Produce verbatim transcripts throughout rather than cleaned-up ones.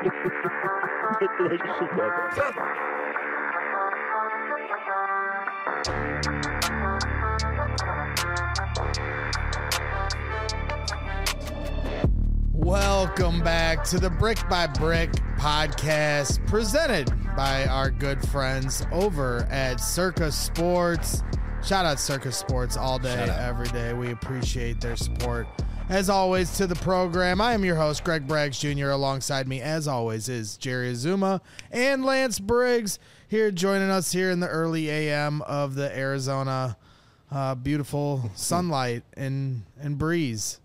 Welcome back to the Brick by Brick podcast, presented by our good friends over at Circa Sports. Shout out Circa Sports all day, every day. We appreciate their support. As always, to the program, I am your host, Greg Braggs Junior Alongside me, as always, is Jerry Azuma and Lance Briggs here joining us here in the early A M of the Arizona. Uh, beautiful sunlight and, and breeze.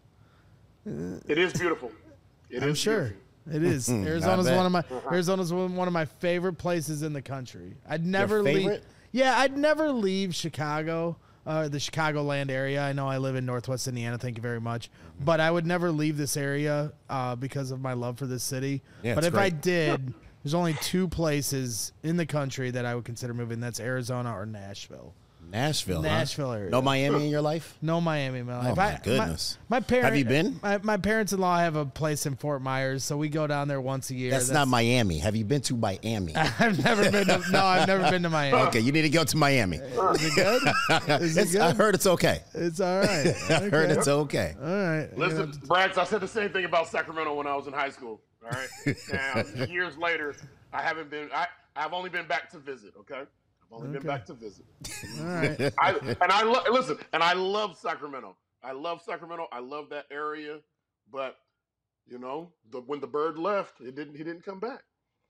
It is beautiful. It I'm is sure beautiful. it is. Arizona's one of my Arizona's one of my favorite places in the country. I'd never leave. Yeah, I'd never leave Chicago, uh, the Chicagoland area. I know I live in Northwest Indiana. Thank you very much. But I would never leave this area uh, because of my love for this city. Yeah, but if great. I did, there's only two places in the country that I would consider moving. That's Arizona or Nashville. Nashville, Nashville huh? area. No Miami in your life? No Miami in my life. Oh, my I, goodness. My, my parents. Have you been? My, my parents-in-law have a place in Fort Myers, so we go down there once a year. That's, That's not Miami. Have you been to Miami? I've never been to, no, I've never been to Miami. Okay, you need to go to Miami. Is it good? Is it It's, good? I heard it's okay. It's all right. Okay. I heard it's okay. All right. Listen, Braggs, I said the same thing about Sacramento when I was in high school. All right. Now, years later, I haven't been. I I've only been back to visit. Okay. I've only Okay. been back to visit. All right. I, and I lo- listen, and I love Sacramento. I love Sacramento. I love that area. But you know, the, when the bird left, it didn't. He didn't come back.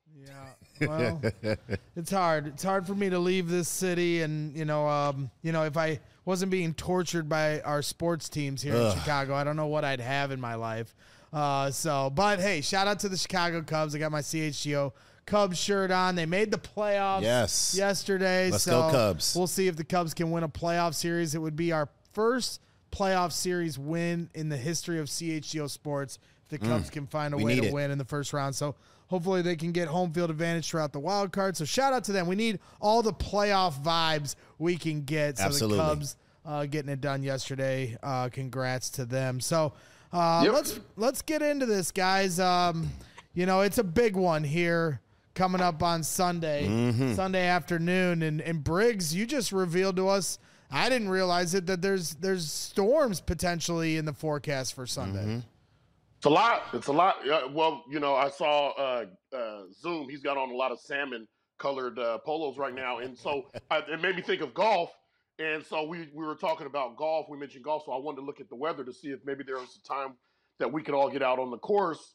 Yeah, well, it's hard. It's hard for me to leave this city, and you know, um, you know, if I wasn't being tortured by our sports teams here Ugh. in Chicago, I don't know what I'd have in my life. Uh, so, but hey, shout out to the Chicago Cubs. I got my C H G O Cubs shirt on. They made the playoffs Yes. yesterday. Let's so go Cubs. We'll see if the Cubs can win a playoff series. It would be our first playoff series win in the history of C H G O Sports. If the Cubs can find a we way need to it. win in the first round. So hopefully they can get home field advantage throughout the wild card. So shout out to them. We need all the playoff vibes we can get. So Absolutely. the Cubs uh, getting it done yesterday. Uh, congrats to them. So uh, Yep. let's let's get into this, guys. Um, you know, it's a big one here coming up on Sunday, Mm-hmm. Sunday afternoon. And, and Briggs, you just revealed to us, I didn't realize it, that there's there's storms potentially in the forecast for Sunday. Mm-hmm. It's a lot. It's a lot. Yeah, well, you know, I saw uh, uh, Zoom. He's got on a lot of salmon-colored uh, polos right now, and so I, it made me think of golf. And so we we were talking about golf. We mentioned golf, so I wanted to look at the weather to see if maybe there was a time that we could all get out on the course.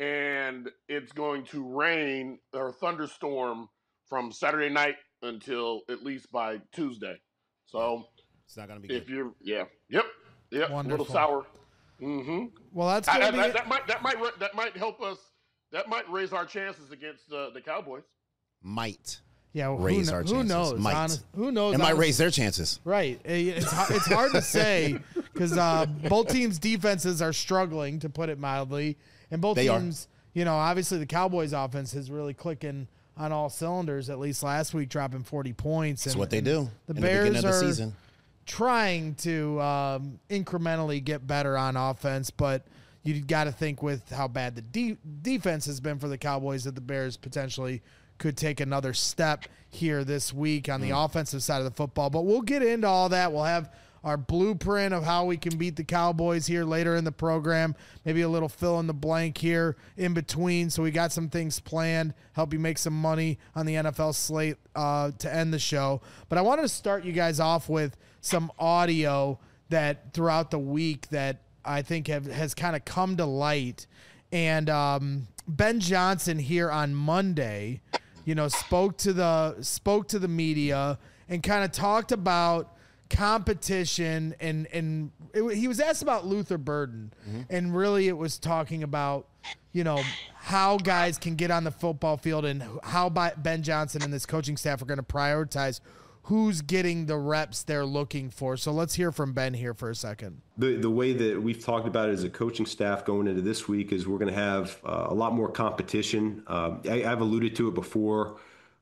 And it's going to rain or thunderstorm from Saturday night until at least by Tuesday. So It's not going to be if good. you're, yeah, yep, yep, a Wonderful. little sour. Mm-hmm. Well, that's I, gonna I, be that, that might that might ra- that might help us. That might raise our chances against uh, the Cowboys. Might. yeah. Who, raise kn- our who chances. knows? Might. Honest, who knows? It might honest- raise their chances. Right. It's h- it's hard to say because uh, both teams' defenses are struggling, to put it mildly, and both They are. teams. You know, obviously the Cowboys' offense is really clicking on all cylinders. At least last week, dropping forty points. That's and, what they and do The in Bears the beginning of the are season. trying to um, incrementally get better on offense, but you got to think with how bad the de- defense has been for the Cowboys that the Bears potentially could take another step here this week on the Mm. offensive side of the football. But we'll get into all that. We'll have our blueprint of how we can beat the Cowboys here later in the program. Maybe a little fill in the blank here in between. So we got some things planned, help you make some money on the N F L slate uh, to end the show. But I wanted to start you guys off with some audio that throughout the week that I think have, has kind of come to light. And um, Ben Johnson here on Monday, you know, spoke to the spoke to the media and kind of talked about competition, and and it, he was asked about Luther Burden, mm-hmm. and really it was talking about, you know, how guys can get on the football field and how Ben Johnson and this coaching staff are going to prioritize who's getting the reps they're looking for. So let's hear from Ben here for a second. The the way that we've talked about it as a coaching staff going into this week is we're going to have uh, a lot more competition. Uh, I, I've alluded to it before.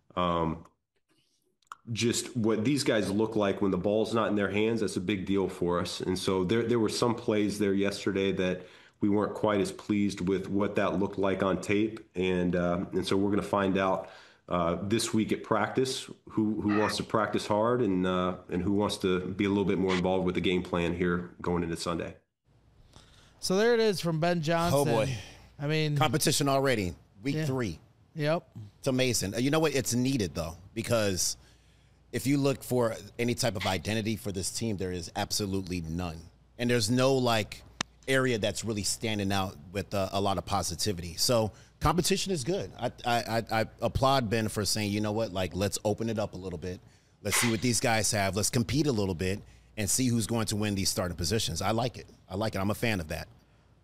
Um, just what these guys look like when the ball's not in their hands, that's a big deal for us. And so there there were some plays there yesterday that we weren't quite as pleased with what that looked like on tape. And, uh, and so we're going to find out uh, this week at practice who, who wants to practice hard and, uh, and who wants to be a little bit more involved with the game plan here going into Sunday. So there it is from Ben Johnson. Oh, boy. I mean, Competition already. Week Yeah. three. Yep. It's amazing. You know what? It's needed, though, because if you look for any type of identity for this team, there is absolutely none. And there's no, like, area that's really standing out with uh, a lot of positivity. So competition is good. I, I, I, I applaud Ben for saying, you know what, like, let's open it up a little bit. Let's see what these guys have. Let's compete a little bit and see who's going to win these starting positions. I like it. I like it. I'm a fan of that.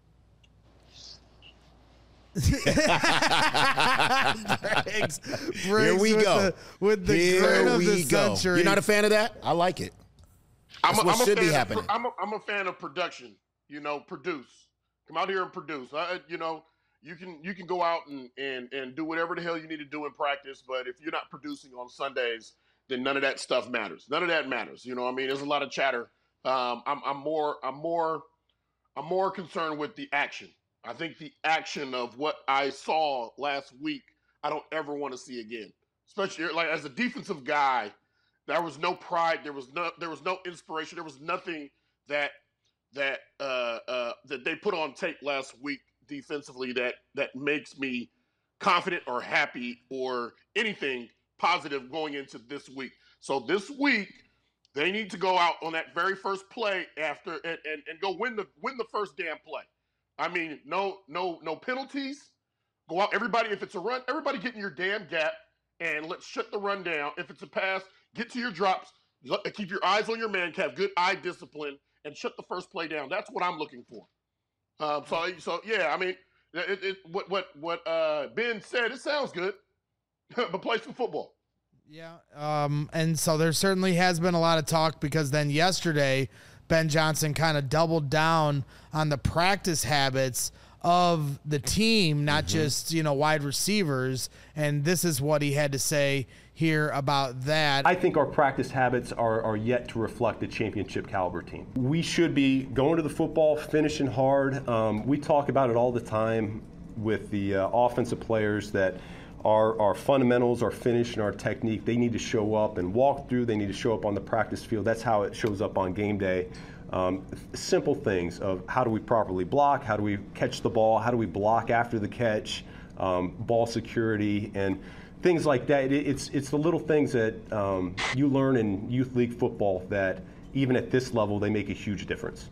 Briggs, Briggs Here we with go. The, with the Here grin of we the go. century. You're not a fan of that? I like it. I'm That's a, what I'm a should be fan of- happening. I'm a, I'm a fan of production. You know, produce. Come out here and produce. I, you know, you can you can go out and, and and do whatever the hell you need to do in practice, but if you're not producing on Sundays, then none of that stuff matters. None of that matters. You know, what I mean, there's a lot of chatter. Um, I'm I'm more I'm more I'm more concerned with the action. I think the action of what I saw last week, I don't ever want to see again. Especially like as a defensive guy, there was no pride, there was no there was no inspiration, there was nothing that that uh, uh, that they put on tape last week defensively that that makes me confident or happy or anything positive going into this week. So this week, they need to go out on that very first play after and, and, and go win the win the first damn play. I mean, no, no, no penalties. Go out, everybody. If it's a run, everybody get in your damn gap and let's shut the run down. If it's a pass, get to your drops. Let- Keep your eyes on your man. Have good eye discipline and shut the first play down. That's what I'm looking for. Um, so, so yeah. I mean, it, it, what what what uh, Ben said. It sounds good, but play some football. Yeah. Um, and so there certainly has been a lot of talk because then yesterday, Ben Johnson kind of doubled down on the practice habits of the team, not Mm-hmm. just, you know, wide receivers. And this is what he had to say here about that. I think our practice habits are, are yet to reflect a championship caliber team. We should be going to the football, finishing hard. Um, we talk about it all the time with the uh, offensive players that our, our fundamentals, our finish, and our technique, they need to show up and walk through. They need to show up on the practice field. That's how it shows up on game day. Um, simple things of how do we properly block, how do we catch the ball, how do we block after the catch, um, ball security, and things like that. It, it's it's the little things that um, you learn in youth league football that even at this level they make a huge difference.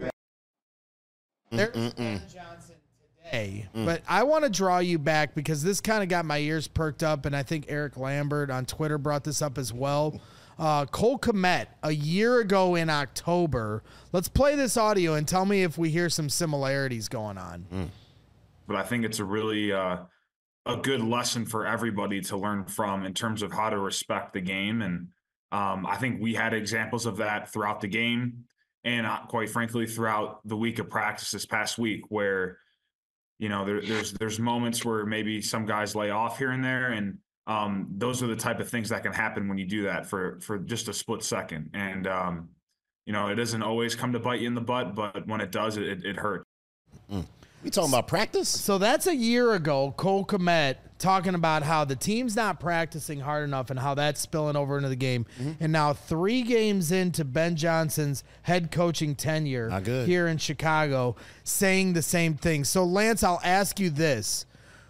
There's Ben Johnson today, but I want to draw you back because this kind of got my ears perked up, and I think Eric Lambert on Twitter brought this up as well. Uh, Cole Kmet, a year ago in October. Let's play this audio and tell me if we hear some similarities going on. But I think it's a really uh, a good lesson for everybody to learn from in terms of how to respect the game. And um, I think we had examples of that throughout the game and uh, quite frankly, throughout the week of practice this past week where, you know, there, there's there's moments where maybe some guys lay off here and there. And um, those are the type of things that can happen when you do that for, for just a split second. And, um, you know, it doesn't always come to bite you in the butt, but when it does, it, it hurts. We talking about practice? So that's a year ago, Cole Kmet talking about how the team's not practicing hard enough and how that's spilling over into the game. And now three games into Ben Johnson's head coaching tenure Not good. here in Chicago, saying the same thing. So, Lance, I'll ask you this.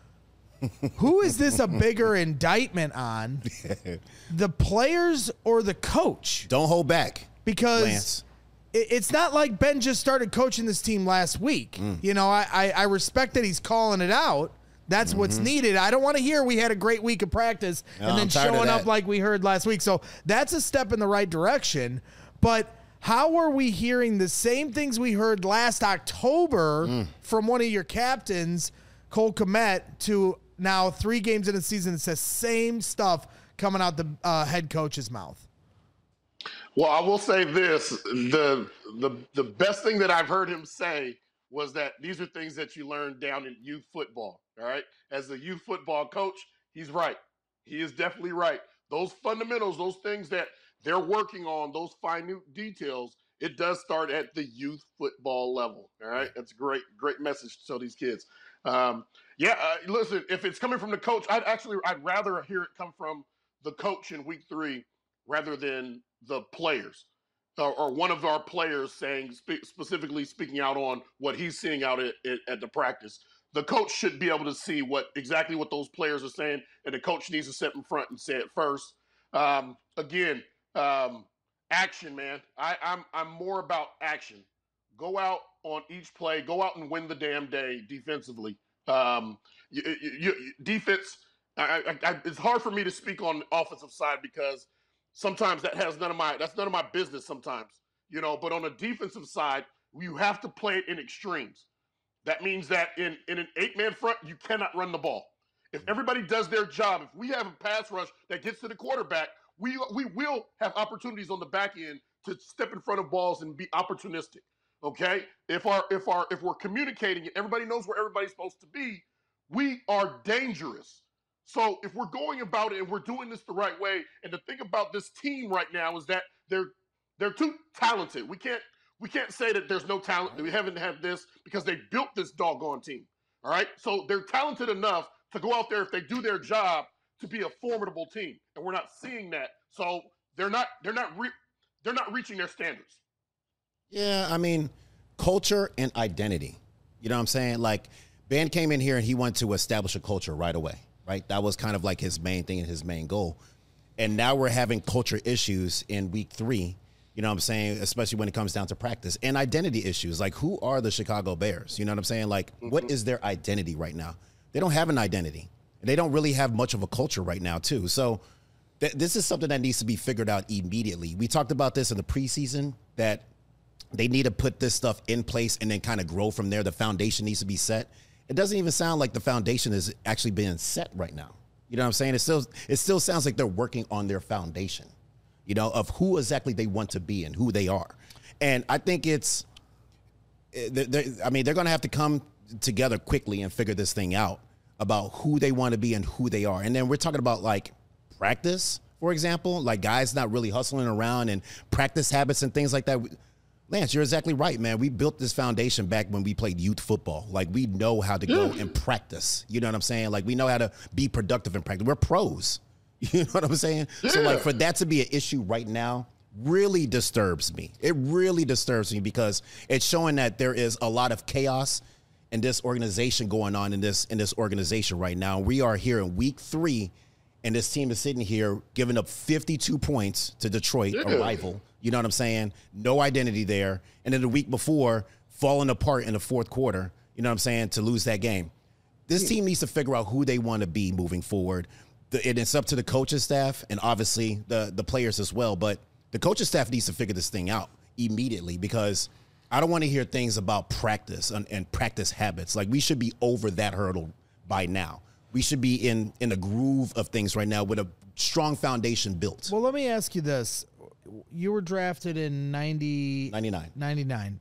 Who is this a bigger indictment on, the players or the coach? Don't hold back. Because Lance. it- it's not like Ben just started coaching this team last week. You know, I, I, I respect that he's calling it out. That's what's needed. I don't want to hear we had a great week of practice No, and then I'm tired of showing up that. like we heard last week. So that's a step in the right direction. But how are we hearing the same things we heard last October from one of your captains, Cole Kmet, to now three games in the season? It's the same stuff coming out the uh, head coach's mouth. Well, I will say this: the the the best thing that I've heard him say was that these are things that you learn down in youth football. All right, as a youth football coach, he's right. He is definitely right. Those fundamentals, those things that they're working on, those minute details, it does start at the youth football level. All right, that's a great, great message to tell these kids. Um, yeah, uh, listen, if it's coming from the coach, I'd actually, I'd rather hear it come from the coach in week three rather than the players or, or one of our players saying, spe- specifically speaking out on what he's seeing out at, at, at the practice. The coach should be able to see what exactly what those players are saying, and the coach needs to step in front and say it first. Um, again, um, action, man. I, I'm I'm more about action. Go out on each play. Go out and win the damn day defensively. Um, you, you, you, defense. I, I, I, it's hard for me to speak on the offensive side because sometimes that has none of my that's none of my business. Sometimes, you know, but on the defensive side, you have to play it in extremes. That means that in, in an eight-man front, you cannot run the ball. If everybody does their job, if we have a pass rush that gets to the quarterback, we we will have opportunities on the back end to step in front of balls and be opportunistic. Okay? If our if our if we're communicating and everybody knows where everybody's supposed to be, we are dangerous. So if we're going about it and we're doing this the right way, and the thing about this team right now is that they're they're too talented. We can't We can't say that there's no talent, that we haven't had this, because they built this doggone team, all right? So they're talented enough to go out there, if they do their job, to be a formidable team, and we're not seeing that. So they're not they're not re- they're not reaching their standards. Yeah, I mean, culture and identity. You know what I'm saying? Like, Ben came in here and he wanted to establish a culture right away, right? That was kind of like his main thing and his main goal. And now we're having culture issues in week three. You know what I'm saying? Especially when it comes down to practice and identity issues. Like, who are the Chicago Bears? You know what I'm saying? Like, mm-hmm. what is their identity right now? They don't have an identity. And they don't really have much of a culture right now, too. So th- this is something that needs to be figured out immediately. We talked about this in the preseason, that they need to put this stuff in place and then kind of grow from there. The foundation needs to be set. It doesn't even sound like the foundation is actually being set right now. You know what I'm saying? It still, it still sounds like they're working on their foundation, you know, of who exactly they want to be and who they are. And I think it's, I mean, they're going to have to come together quickly and figure this thing out about who they want to be and who they are. And then we're talking about, like, practice, for example, like guys not really hustling around and practice habits and things like that. Lance, you're exactly right, man. We built this foundation back when we played youth football. Like, we know how to go and practice. You know what I'm saying? Like, we know how to be productive in practice. We're pros. You know what I'm saying? Yeah. So, like, for that to be an issue right now really disturbs me. It really disturbs me because it's showing that there is a lot of chaos in this organization going on in this in this organization right now. We are here in week three, and this team is sitting here giving up fifty-two points to Detroit, yeah. a rival. You know what I'm saying? No identity there. And then the week before, falling apart in the fourth quarter, you know what I'm saying, to lose that game. This team needs to figure out who they want to be moving forward. The, and it's up to the coaching staff and obviously the, the players as well. But the coaching staff needs to figure this thing out immediately because I don't want to hear things about practice and, and practice habits. Like, we should be over that hurdle by now. We should be in, in a groove of things right now with a strong foundation built. Well, let me ask you this. You were drafted in ninety, ninety-nine. ninety-nine.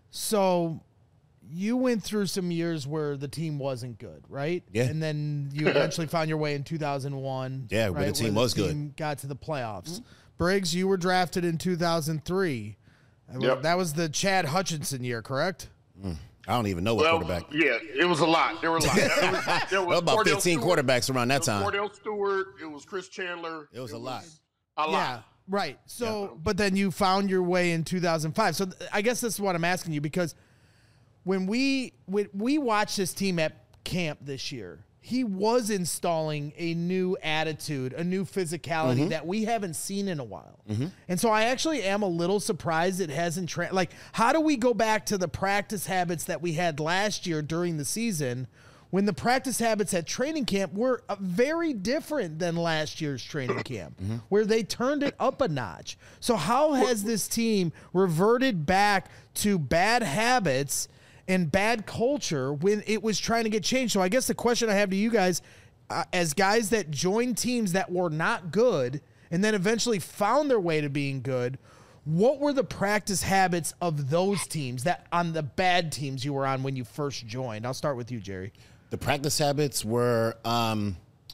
So you went through some years where the team wasn't good, right? Yeah. And then you eventually found your way in two thousand one. Yeah, right, where the team where was the team good. Got to the playoffs. Mm-hmm. Briggs, you were drafted in two thousand three. Yep. That was the Chad Hutchinson year, correct? Mm. I don't even know what well, quarterback. Yeah, it was a lot. There were a lot. There was, there was about Cordell fifteen Stewart, quarterbacks around that time. Cordell Stewart. It was Chris Chandler. It was it a lot. Was a lot. Yeah, right. So, yeah. but then you found your way in two thousand five. So th- I guess this is what I'm asking you, because when we when we watched this team at camp this year, he was installing a new attitude, a new physicality mm-hmm. that we haven't seen in a while. Mm-hmm. And so I actually am a little surprised it hasn't tra- like, how do we go back to the practice habits that we had last year during the season when the practice habits at training camp were uh, very different than last year's training camp, mm-hmm. where they turned it up a notch? So how has this team reverted back to bad habits and bad culture when it was trying to get changed? So I guess the question I have to you guys, uh, as guys that joined teams that were not good and then eventually found their way to being good, what were the practice habits of those teams, that on the bad teams you were on when you first joined? I'll start with you, Jerry. The practice habits were, um,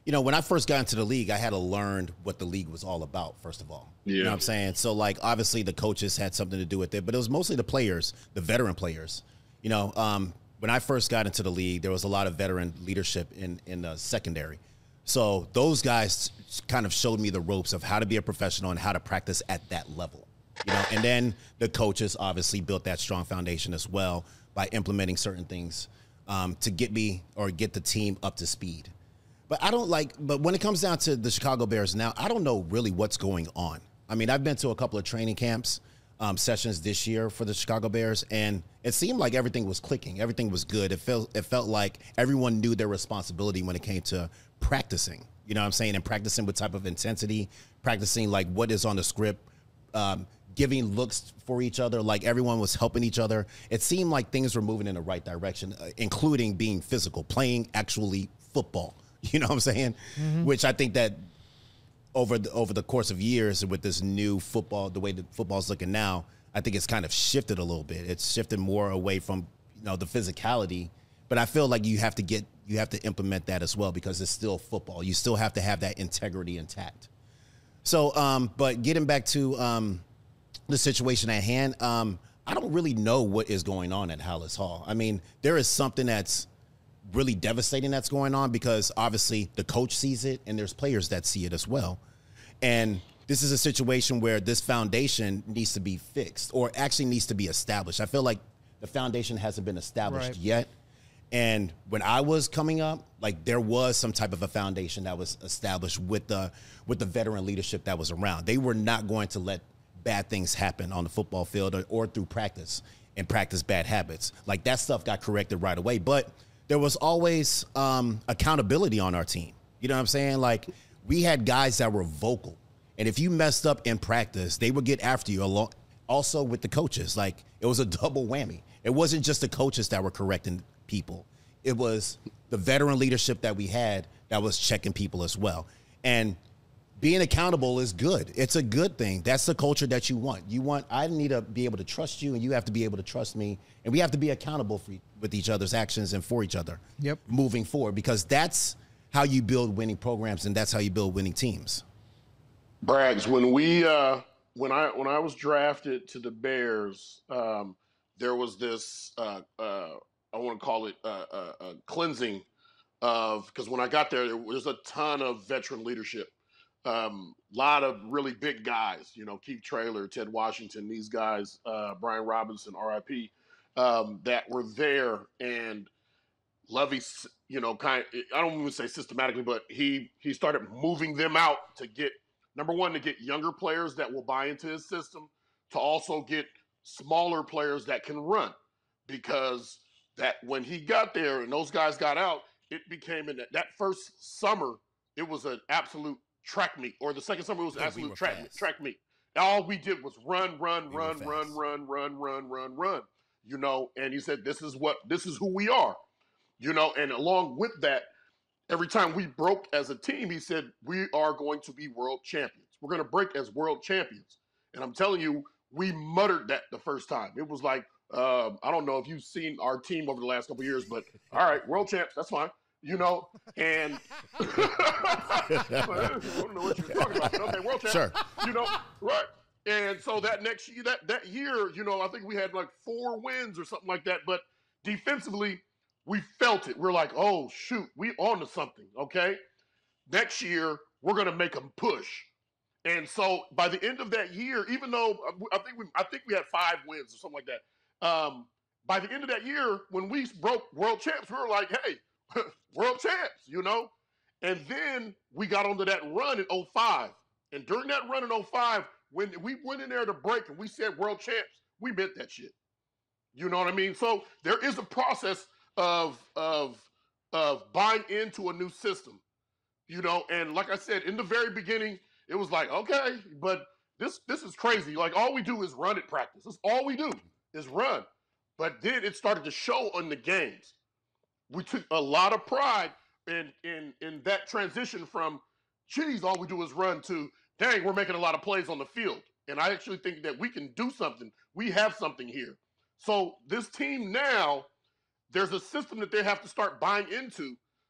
you know, when I first got into the league, I had to learn what the league was all about, first of all. Yeah. You know what I'm saying? So, like, obviously the coaches had something to do with it, but it was mostly the players, the veteran players. You know, um, when I first got into the league, there was a lot of veteran leadership in, in the secondary. So those guys kind of showed me the ropes of how to be a professional and how to practice at that level. You know, and then the coaches obviously built that strong foundation as well by implementing certain things um, to get me or get the team up to speed. But I don't like, but when it comes down to the Chicago Bears now, I don't know really what's going on. I mean, I've been to a couple of training camps, um, sessions this year for the Chicago Bears, and it seemed like everything was clicking. Everything was good. It felt, it felt like everyone knew their responsibility when it came to practicing, you know what I'm saying? And practicing with type of intensity, practicing like what is on the script, um, giving looks for each other, like everyone was helping each other. It seemed like things were moving in the right direction, uh, including being physical, playing actually football. You know what I'm saying? Mm-hmm. Which I think that over the, over the course of years with this new football, the way that football's looking now, I think it's kind of shifted a little bit. It's shifted more away from, you know, the physicality. But I feel like you have to get, you have to implement that as well because it's still football. You still have to have that integrity intact. So, um, but getting back to um, the situation at hand, um, I don't really know what is going on at Halas Hall. I mean, there is something that's really devastating that's going on because obviously the coach sees it and there's players that see it as well. And this is a situation where this foundation needs to be fixed or actually needs to be established. I feel like the foundation hasn't been established right. yet. And when I was coming up, like there was some type of a foundation that was established with the with the veteran leadership that was around. They were not going to let bad things happen on the football field or, or through practice and practice bad habits. Like that stuff got corrected right away. But there was always um, accountability on our team. You know what I'm saying? Like we had guys that were vocal. And if you messed up in practice, they would get after you along. Also with the coaches, like it was a double whammy. It wasn't just the coaches that were correcting people. It was the veteran leadership that we had that was checking people as well. And being accountable is good. It's a good thing. That's the culture that you want. You want, I need to be able to trust you and you have to be able to trust me. And we have to be accountable for, with each other's actions and for each other yep. moving forward, because that's how you build winning programs and that's how you build winning teams. Braggs, when we, uh, when I, when I was drafted to the Bears, um, there was this, uh, uh, I want to call it a uh, uh, uh, cleansing of, because when I got there, there was a ton of veteran leadership. A um, lot of really big guys, you know, Keith Traylor, Ted Washington, these guys, uh, Brian Robinson, R I P, um, that were there. And Lovey, you know, kind of, I don't even say systematically, but he he started moving them out to get, number one, to get younger players that will buy into his system, to also get smaller players that can run. Because that when he got there and those guys got out, it became, in that, that first summer, it was an absolute track meet, or the second summer it was yeah, absolute we track fast. track meet. All we did was run, run, we run, run, run, run, run, run, run. You know, and he said, "This is what, this is who we are." You know, and along with that, every time we broke as a team, he said, "We are going to be world champions. We're going to break as world champions." And I'm telling you, we muttered that the first time. It was like, uh, I don't know if you've seen our team over the last couple of years, but all right, world champs, that's fine. You know, and I don't know what you're talking about. But okay, world champ. Sure. You know, right? And so that next year, that that year, you know, I think we had like four wins or something like that. But defensively, we felt it. We're like, oh shoot, we on to something. Okay, next year we're gonna make them push. And so by the end of that year, even though I think we, I think we had five wins or something like that. Um, by the end of that year, when we broke world champs, we were like, hey. World champs, you know? And then we got onto that run in oh five. And during that run in oh five, when we went in there to break and we said world champs, we meant that shit. You know what I mean? So there is a process of of of buying into a new system. You know, and like I said, in the very beginning, it was like, okay, but this this is crazy. Like all we do is run at practice. That's all we do is run. But then it started to show on the games. We took a lot of pride in in in that transition from, geez, all we do is run, to, dang, we're making a lot of plays on the field. And I actually think that we can do something. We have something here. So this team now, there's a system that they have to start buying into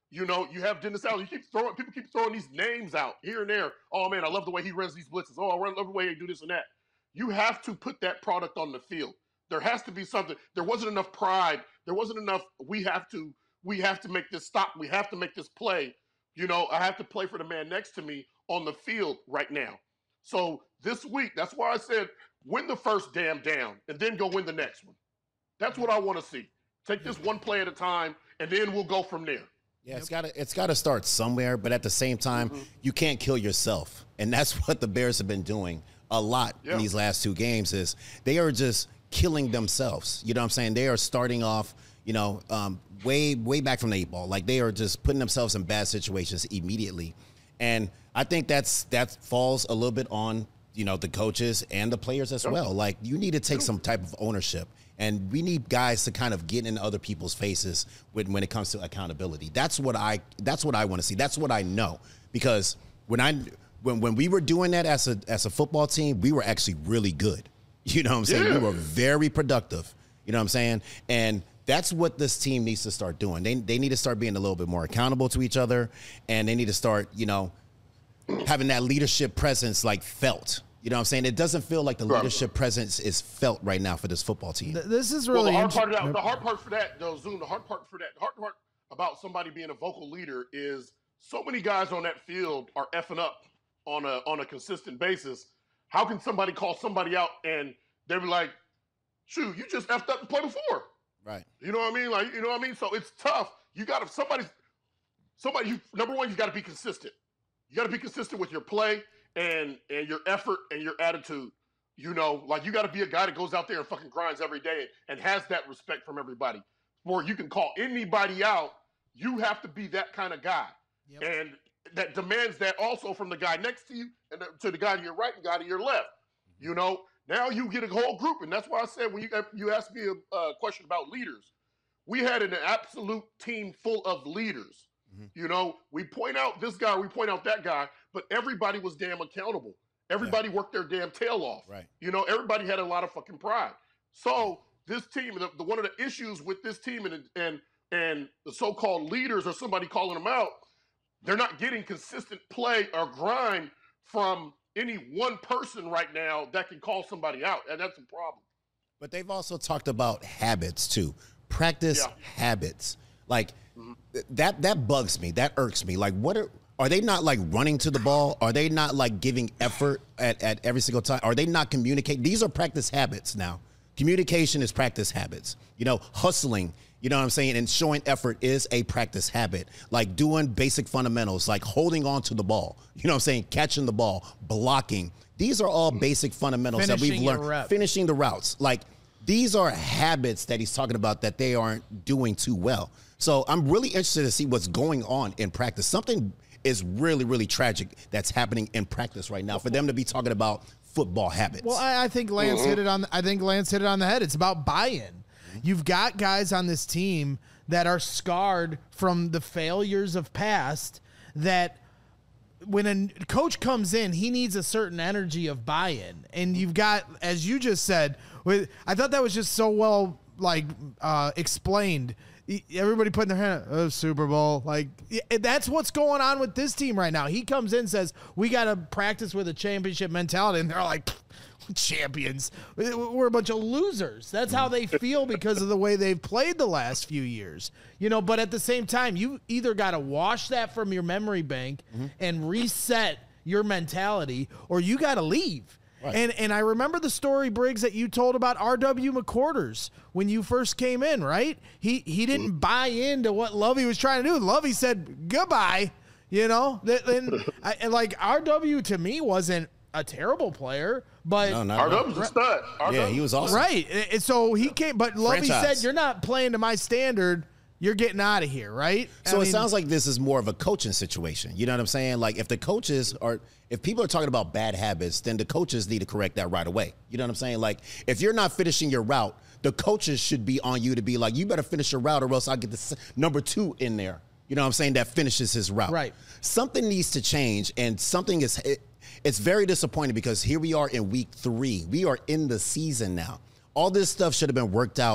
You know, you have Dennis Allen. You keep throwing people keep throwing these names out here and there. Oh man, I love the way he runs these blitzes. Oh, I love the way he do this and that. You have to put that product on the field. There has to be something. There wasn't enough pride. There wasn't enough. We have to. We have to make this stop. We have to make this play. You know, I have to play for the man next to me on the field right now. So this week, that's why I said win the first damn down and then go win the next one. That's what I want to see. Take this one play at a time, and then we'll go from there. Yeah, it's got to it's got to start somewhere, but at the same time, mm-hmm. you can't kill yourself, and that's what the Bears have been doing a lot yeah. in these last two games. Is they are just killing themselves. You know what I'm saying? They are starting off, you know, um, way way back from the eight ball. Like they are just putting themselves in bad situations immediately, and I think that's that falls a little bit on, you know, the coaches and the players as well. Like you need to take some type of ownership. And we need guys to kind of get in other people's faces when, when it comes to accountability. That's what I that's what I want to see. That's what I know. Because when I when when we were doing that as a as a football team, we were actually really good. You know what I'm saying? Yeah. We were very productive. You know what I'm saying? And that's what this team needs to start doing. They they need to start being a little bit more accountable to each other, and they need to start, you know, having that leadership presence like felt. You know what I'm saying? It doesn't feel like the leadership presence is felt right now for this football team. This is really well, the hard part of that, the hard part for that, though, Zoom, the hard part for that, the hard part about somebody being a vocal leader is so many guys on that field are effing up on a on a consistent basis. How can somebody call somebody out and they be like, shoot, you just effed up the play before. Right. You know what I mean? Like, you know what I mean? So it's tough. You got to, somebody, somebody, you, number one, you got to be consistent. You got to be consistent with your play. And and your effort and your attitude, you know, like you got to be a guy that goes out there and fucking grinds every day and has that respect from everybody. Or you can call anybody out. You have to be that kind of guy, yep. and that demands that also from the guy next to you and to the guy to your right and guy to your left. You know, now you get a whole group, and that's why I said when you you asked me a, a question about leaders, we had an absolute team full of leaders. You know, we point out this guy, we point out that guy, but everybody was damn accountable. Everybody yeah. worked their damn tail off. Right. You know, everybody had a lot of fucking pride. So this team, the, the one of the issues with this team and and and the so-called leaders or somebody calling them out, they're not getting consistent play or grind from any one person right now that can call somebody out, and that's a problem. But they've also talked about habits too. Practice yeah. habits. Like mm-hmm. that that bugs me. That irks me. Like what are are they not like running to the ball? Are they not like giving effort at, at every single time? Are they not communicating? These are practice habits now. Communication is practice habits. You know, hustling, you know what I'm saying? And showing effort is a practice habit. Like doing basic fundamentals, like holding on to the ball. You know what I'm saying? Catching the ball, blocking. These are all basic fundamentals Finishing that we've learned. Finishing the routes. Like these are habits that he's talking about that they aren't doing too well. So I'm really interested to see what's going on in practice. Something is really, really tragic that's happening in practice right now for them to be talking about football habits. Well, I, I think Lance mm-hmm. hit it on. I think Lance hit it on the head. It's about buy-in. Mm-hmm. You've got guys on this team that are scarred from the failures of past. That when a coach comes in, he needs a certain energy of buy-in, and you've got, as you just said, with I thought that was just so well like uh, explained. Everybody putting their hand, oh, Super Bowl. Like, that's what's going on with this team right now. He comes in and says, we got to practice with a championship mentality. And they're like, champions. We're a bunch of losers. That's how they feel because of the way they've played the last few years. You know, but at the same time, you either got to wash that from your memory bank mm-hmm. and reset your mentality, or you got to leave. Right. And and I remember the story, Briggs, that you told about R W McQuarters when you first came in, right? He he didn't mm-hmm. buy into what Lovey was trying to do. Lovey said goodbye, you know. And, I, and like R W to me wasn't a terrible player, but no, R W's a stud. R W. Yeah, he was awesome. Right. And so he came, but Lovey Franchise. said, "You're not playing to my standard. You're getting out of here," right? So I it mean, sounds like this is more of a coaching situation. You know what I'm saying? Like if the coaches are, if people are talking about bad habits, then the coaches need to correct that right away. You know what I'm saying? Like if you're not finishing your route, the coaches should be on you to be like, you better finish your route or else I'll get the number two in there. You know what I'm saying? That finishes his route. Right. Something needs to change, and something is, it, it's very disappointing because here we are in week three. We are in the season now. All this stuff should have been worked out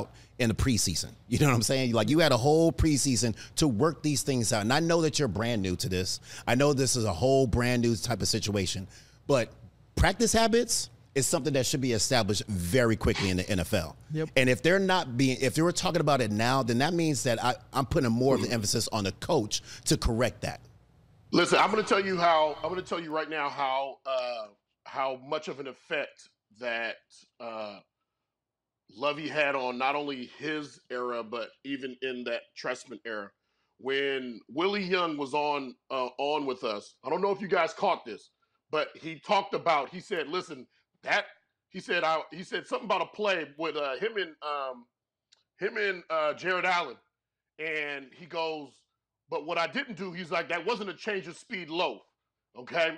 in the preseason. You know what I'm saying? Like, you had a whole preseason to work these things out. And I know that you're brand new to this. I know this is a whole brand new type of situation. But practice habits is something that should be established very quickly in the N F L. Yep. And if they're not being, if they were talking about it now, then that means that I, I'm putting more of the emphasis on the coach to correct that. Listen, I'm going to tell you how, I'm going to tell you right now how, uh, how much of an effect that uh, Lovey had on not only his era, but even in that Trestman era. When Willie Young was on uh, on with us, I don't know if you guys caught this, but he talked about, he said, listen, that, he said, I, he said something about a play with uh, him and um, him and uh, Jared Allen. And he goes, but what I didn't do, he's like, that wasn't a change of speed loaf, okay?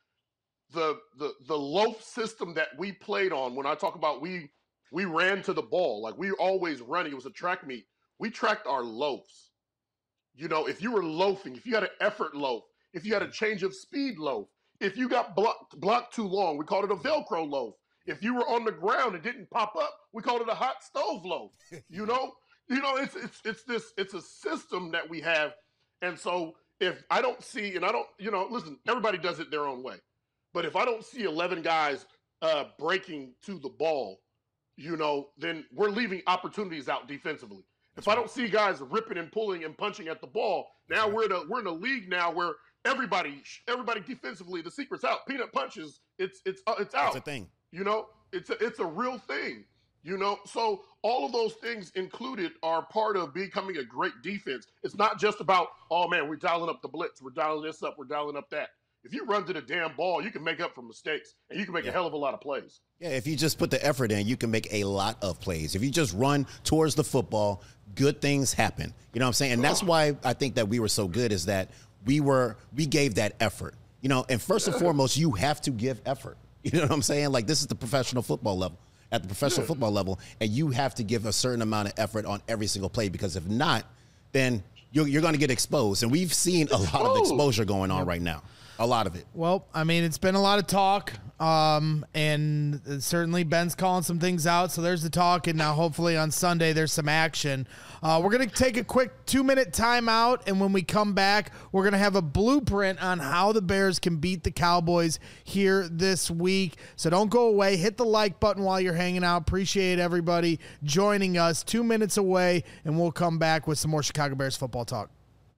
The, the the loaf system that we played on, when I talk about we we ran to the ball, like we were always running, it was a track meet. We tracked our loafs. You know, if you were loafing, if you had an effort loaf, if you had a change of speed loaf, if you got blocked, blocked too long, we called it a Velcro loaf. If you were on the ground and didn't pop up, we called it a hot stove loaf. You know, you know, it's it's it's this it's a system that we have, and so if I don't see, and I don't, you know, listen, everybody does it their own way. But if I don't see eleven guys uh, breaking to the ball, you know, then we're leaving opportunities out defensively. If I don't see guys ripping and pulling and punching at the ball, now we're in a we're in a league now where everybody everybody defensively, the secret's out. Peanut punches, it's it's uh, it's out. That's a thing. You know, it's a, it's a real thing. You know, so all of those things included are part of becoming a great defense. It's not just about, oh man, we're dialing up the blitz, we're dialing this up, we're dialing up that. If you run to the damn ball, you can make up for mistakes, and you can make yeah. a hell of a lot of plays. Yeah, if you just put the effort in, you can make a lot of plays. If you just run towards the football, good things happen. You know what I'm saying? And that's why I think that we were so good, is that we were we gave that effort. You know, and first and foremost, you have to give effort. You know what I'm saying? Like, this is the professional football level, at the professional yeah. football level, and you have to give a certain amount of effort on every single play, because if not, then you're, you're going to get exposed. And we've seen a lot of exposure going on yep. right now. A lot of it. Well, I mean, it's been a lot of talk, um, and certainly Ben's calling some things out, so there's the talk, and now hopefully on Sunday there's some action. Uh, we're going to take a quick two-minute timeout, and when we come back, we're going to have a blueprint on how the Bears can beat the Cowboys here this week. So don't go away. Hit the like button while you're hanging out. Appreciate everybody joining us. Two minutes away, and we'll come back with some more Chicago Bears football talk.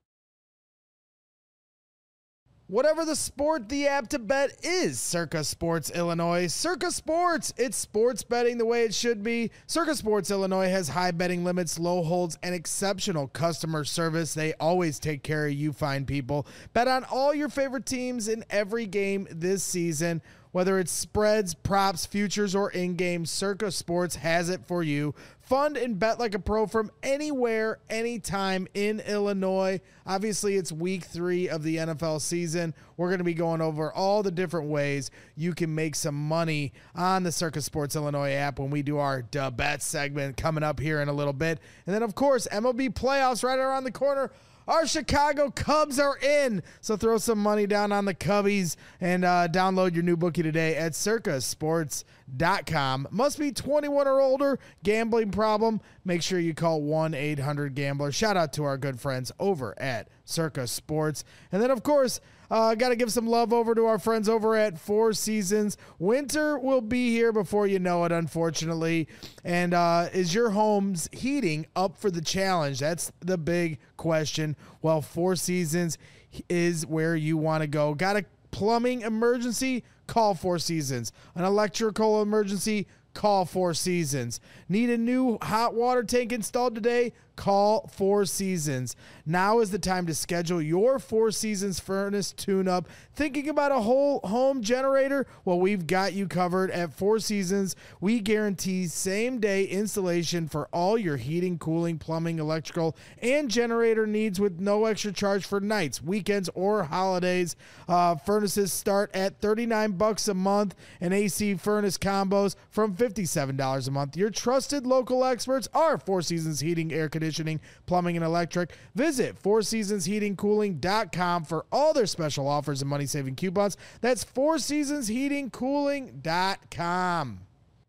Whatever the sport, the app to bet is Circa Sports Illinois. Circa Sports, it's sports betting the way it should be. Circa Sports Illinois has high betting limits, low holds, and exceptional customer service. They always take care of you fine people. Bet on all your favorite teams in every game this season. Whether it's spreads, props, futures, or in-game, Circa Sports has it for you. Fund and bet like a pro from anywhere, anytime in Illinois. Obviously, it's week three of the N F L season. We're going to be going over all the different ways you can make some money on the Circa Sports Illinois app when we do our Duh Bet segment coming up here in a little bit. And then, of course, M L B playoffs right around the corner. Our Chicago Cubs are in, so throw some money down on the Cubbies and uh, download your new bookie today at circa sports dot com. Must be twenty-one or older. Gambling problem? Make sure you call one eight hundred gambler. Shout out to our good friends over at Circa Sports. And then, of course, uh, got to give some love over to our friends over at Four Seasons. Winter will be here before you know it, unfortunately. And uh, is your home's heating up for the challenge? That's the big question. Well, Four Seasons is where you want to go. Got a plumbing emergency? Call Four Seasons. An electrical emergency? Call Four Seasons. Need a new hot water tank installed today? Call Four Seasons. Now is the time to schedule your Four Seasons furnace tune-up. Thinking about a whole home generator? Well, we've got you covered at Four Seasons. We guarantee same-day installation for all your heating, cooling, plumbing, electrical, and generator needs with no extra charge for nights, weekends, or holidays. Uh, furnaces start at thirty-nine bucks a month, and A C furnace combos from fifty-seven dollars a month. Your trusted local experts are Four Seasons Heating, Air Conditioning, Plumbing, and Electric. Visit four seasons heating cooling dot com for all their special offers and money-saving coupons. That's four seasons heating cooling dot com.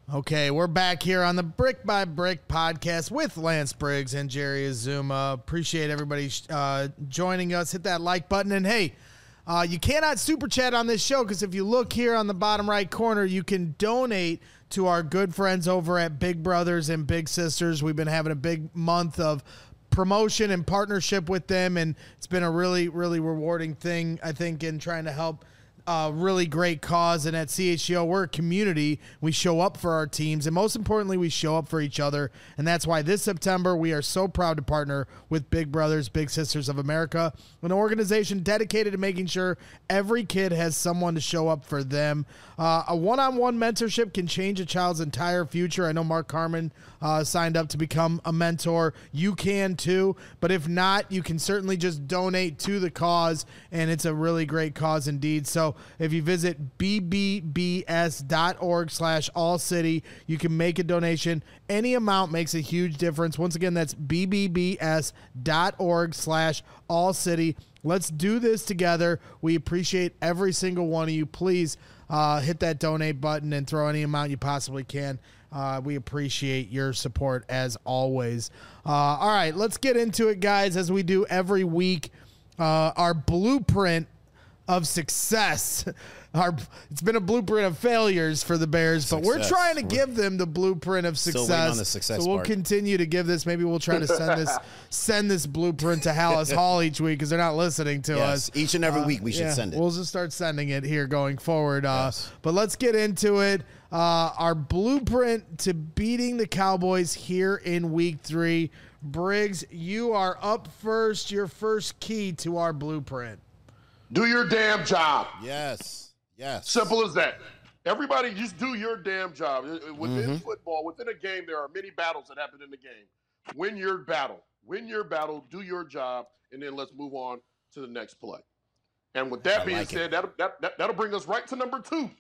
Okay, we're back here on the Brick by Brick podcast with Lance Briggs and Jerry Azuma. Appreciate everybody uh, joining us. Hit that like button. And, hey, uh, you cannot super chat on this show because if you look here on the bottom right corner, you can donate to our good friends over at Big Brothers and Big Sisters. We've been having a big month of promotion and partnership with them, and it's been a really, really rewarding thing, I think, in trying to help a really great cause. And at C H G O, we're a community. We show up for our teams, and most importantly, we show up for each other. And that's why this September, we are so proud to partner with Big Brothers, Big Sisters of America, an organization dedicated to making sure every kid has someone to show up for them. Uh, a one-on-one mentorship can change a child's entire future. I know Mark Carmen uh, signed up to become a mentor. You can too, but if not, you can certainly just donate to the cause, and it's a really great cause indeed. So if you visit b b b s dot org slash all city, you can make a donation. Any amount makes a huge difference. Once again, that's b b b s dot org slash all city. Let's do this together. We appreciate every single one of you. Please uh, hit that donate button and throw any amount you possibly can. Uh, we appreciate your support as always. Uh, all right, let's get into it, guys, as we do every week. Uh, our blueprint of success. Our, it's been a blueprint of failures for the Bears, success. But we're trying to give them the blueprint of success. Still waiting on the success so we'll part. continue to give this. Maybe we'll try to send this send this blueprint to Hallis Hall each week because they're not listening to yes, us. Each and every uh, week we should yeah, send it. We'll just start sending it here going forward. Uh, yes. But let's get into it. Uh, our blueprint to beating the Cowboys here in week three. Briggs, you are up first. Your first key to our blueprint. Do your damn job. Yes. Yes. Simple as that. Everybody just do your damn job. Within mm-hmm. football, within a game, there are many battles that happen in the game. Win your battle. Win your battle. Do your job. And then let's move on to the next play. And with that I being like said, that'll, that, that, that'll bring us right to number two.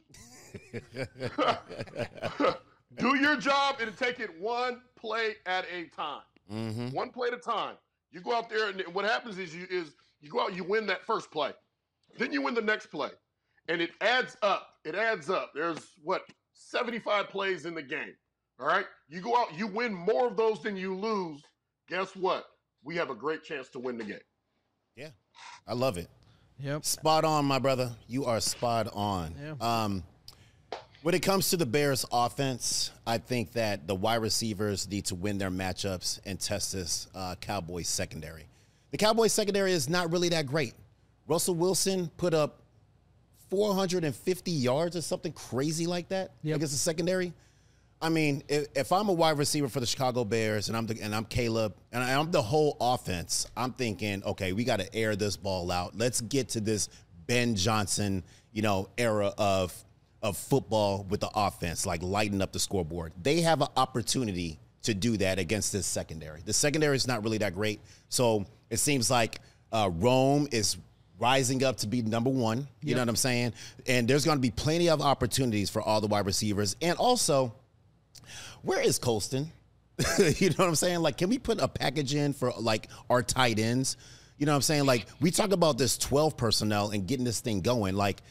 Do your job and take it one play at a time. Mm-hmm. One play at a time. You go out there, and what happens is you is you go out, you win that first play. Then you win the next play. And it adds up. It adds up. There's, what, seventy-five plays in the game. All right? You go out, you win more of those than you lose. Guess what? We have a great chance to win the game. Yeah. I love it. Yep. Spot on, my brother. You are spot on. Yeah. Um, when it comes to the Bears offense, I think that the wide receivers need to win their matchups and test this uh, Cowboys secondary. The Cowboys secondary is not really that great. Russell Wilson put up four hundred fifty yards or something crazy like that yep. against the secondary. I mean, if, if I'm a wide receiver for the Chicago Bears and I'm the, and I'm Caleb and I'm the whole offense, I'm thinking, okay, we got to air this ball out. Let's get to this Ben Johnson, you know, era of of football with the offense, like lighten up the scoreboard. They have an opportunity to do that against this secondary. The secondary is not really that great, so it seems like uh, Rome is rising up to be number one. You yep. know what I'm saying? And there's going to be plenty of opportunities for all the wide receivers. And also, where is Colston? You know what I'm saying? Like, can we put a package in for, like, our tight ends? You know what I'm saying? Like, we talk about this twelve personnel and getting this thing going. Like,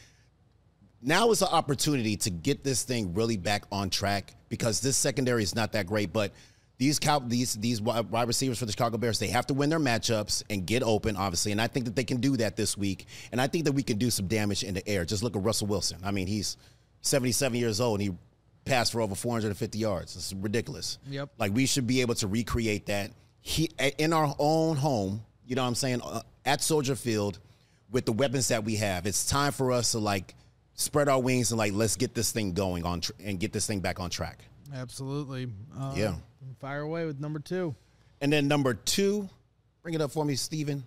now is an opportunity to get this thing really back on track because this secondary is not that great. But these cow, these these wide receivers for the Chicago Bears, they have to win their matchups and get open, obviously. And I think that they can do that this week. And I think that we can do some damage in the air. Just look at Russell Wilson. I mean, he's seventy-seven years old, and he passed for over four hundred fifty yards. It's ridiculous. Yep. Like, we should be able to recreate that he, in our own home, you know what I'm saying, uh, at Soldier Field with the weapons that we have. It's time for us to, like, spread our wings and, like, let's get this thing going on tr- and get this thing back on track. Absolutely. Uh, yeah. Fire away with number two. And then number two, bring it up for me, Steven.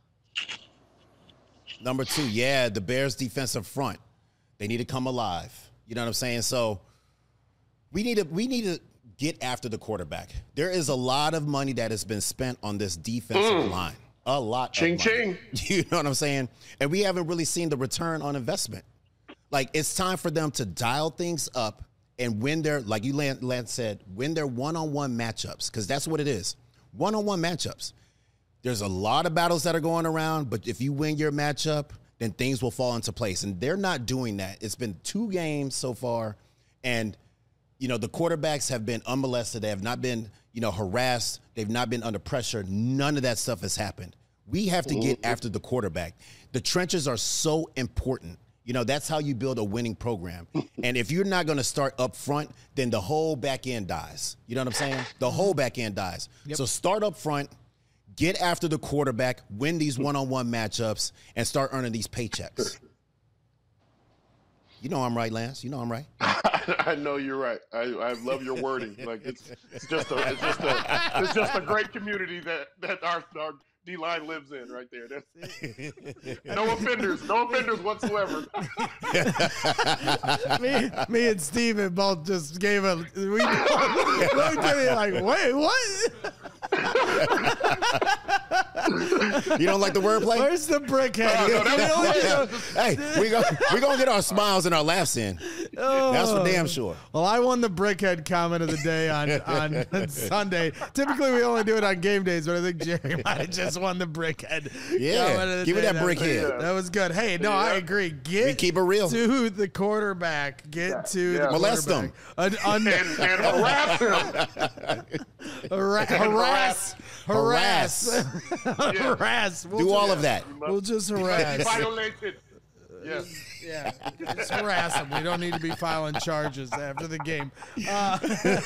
Number two, yeah, the Bears defensive front. They need to come alive. You know what I'm saying? So we need to we need to get after the quarterback. There is a lot of money that has been spent on this defensive mm. line. A lot ching, of money. Ching. You know what I'm saying? And we haven't really seen the return on investment. Like, it's time for them to dial things up and win their, like you Lance said, win their one-on-one matchups, because that's what it is. One-on-one matchups. There's a lot of battles that are going around, but if you win your matchup, then things will fall into place. And they're not doing that. It's been two games so far, and you know, the quarterbacks have been unmolested. They have not been, you know, harassed. They've not been under pressure. None of that stuff has happened. We have to get after the quarterback. The trenches are so important. You know, that's how you build a winning program. And if you're not going to start up front, then the whole back end dies. You know what I'm saying? The whole back end dies. Yep. So start up front, get after the quarterback, win these one-on-one matchups, and start earning these paychecks. You know I'm right, Lance. You know I'm right. I know you're right. I, I love your wording. Like it's it's just a it's just a it's just a great community that that our our D-line lives in right there. That's no offenders, no offenders whatsoever. me, me and Steven both just gave a we looked at it like, wait, what? You don't like the wordplay? Where's the brickhead? Oh, no, hey, we go we gonna get our smiles and our laughs in. Oh. That's for damn sure. Well, I won the brickhead comment of the day on, on Sunday. Typically, we only do it on game days, but I think Jerry might have just won the brickhead. Yeah, give me that brickhead. That was good. Hey, no, yeah. I agree. Get we keep it real. to the quarterback. Get yeah. to yeah. the molest them un- un- and, and harass him. Hara- harass, harass, harass. harass. We'll do just, all of that. We'll just harass. Violated. Yes. Yeah, just harass them. We don't need to be filing charges after the game. Uh,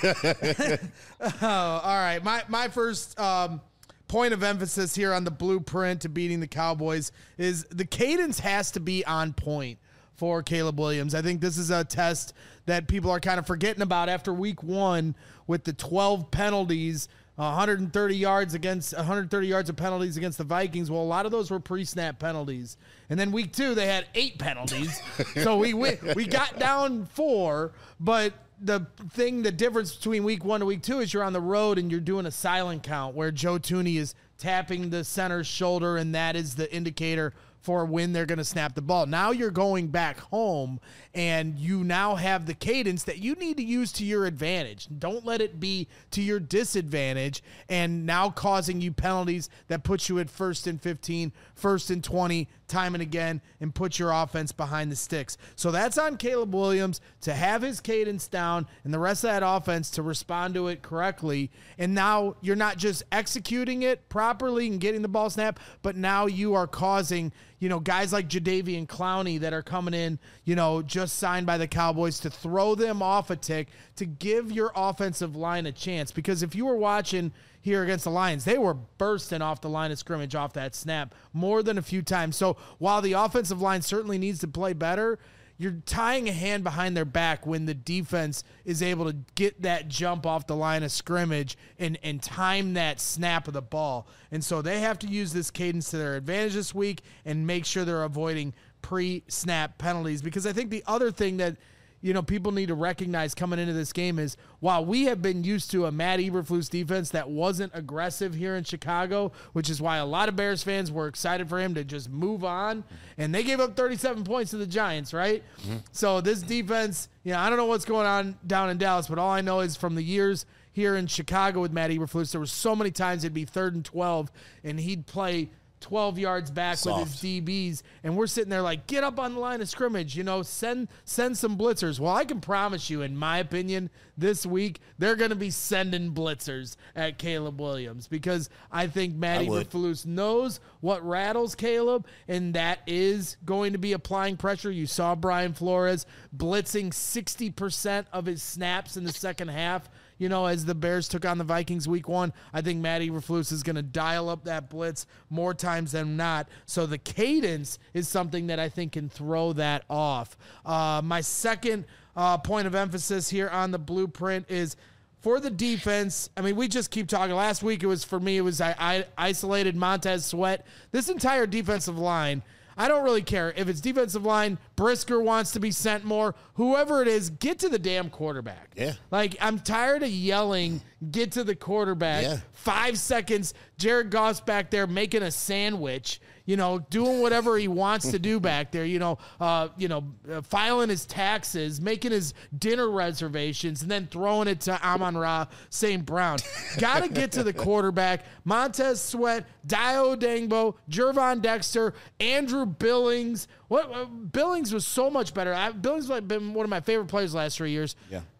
oh, all right, my my first um, point of emphasis here on the blueprint to beating the Cowboys is the cadence has to be on point for Caleb Williams. I think this is a test that people are kind of forgetting about after week one with the twelve penalties. one hundred thirty yards against one hundred thirty yards of penalties against the Vikings. Well, a lot of those were pre-snap penalties. And then week two, they had eight penalties. So we, we we got down four, but the thing, the difference between week one to week two is you're on the road and you're doing a silent count where Joe Thuney is tapping the center's shoulder, and that is the indicator for when they're going to snap the ball. Now you're going back home, and you now have the cadence that you need to use to your advantage. Don't let it be to your disadvantage and now causing you penalties that put you at first and fifteen, first and twenty, time and again, and put your offense behind the sticks. So that's on Caleb Williams to have his cadence down and the rest of that offense to respond to it correctly. And now you're not just executing it properly and getting the ball snapped, but now you are causing, you know, guys like Jadeveon Clowney that are coming in, you know, just signed by the Cowboys to throw them off a tick to give your offensive line a chance. Because if you were watching here against the Lions, they were bursting off the line of scrimmage off that snap more than a few times. So while the offensive line certainly needs to play better, you're tying a hand behind their back when the defense is able to get that jump off the line of scrimmage and, and time that snap of the ball. And so they have to use this cadence to their advantage this week and make sure they're avoiding pre-snap penalties. Because I think the other thing that, you know, people need to recognize coming into this game is while we have been used to a Matt Eberflus defense that wasn't aggressive here in Chicago, which is why a lot of Bears fans were excited for him to just move on, and they gave up thirty-seven points to the Giants, right? Mm-hmm. So this defense, you know, I don't know what's going on down in Dallas, but all I know is from the years here in Chicago with Matt Eberflus, there were so many times it'd be third and twelve, and he'd play twelve yards back Soft. with his D Bs, and we're sitting there like, get up on the line of scrimmage, you know, send send some blitzers. Well, I can promise you, in my opinion, this week, they're going to be sending blitzers at Caleb Williams because I think Matt Eberflus knows what rattles Caleb, and that is going to be applying pressure. You saw Brian Flores blitzing sixty percent of his snaps in the second half. You know, as the Bears took on the Vikings week one, I think Matt Eberflus is going to dial up that blitz more times than not. So the cadence is something that I think can throw that off. Uh, my second uh, point of emphasis here on the blueprint is for the defense. I mean, we just keep talking. Last week, it was for me, it was I, I isolated Montez Sweat. This entire defensive line, I don't really care. If it's defensive line, Brisker wants to be sent more, whoever it is, get to the damn quarterback. Yeah. Like, I'm tired of yelling, get to the quarterback. Yeah. Five seconds, Jared Goff's back there making a sandwich, you know, doing whatever he wants to do back there, you know, uh, you know, uh, filing his taxes, making his dinner reservations, and then throwing it to Amon-Ra Saint Brown. Got to get to the quarterback. Montez Sweat, Dio Dangbo, Gervon Dexter, Andrew Billings. What uh, Billings was so much better. I, Billings has been one of my favorite players the last three years. Yeah.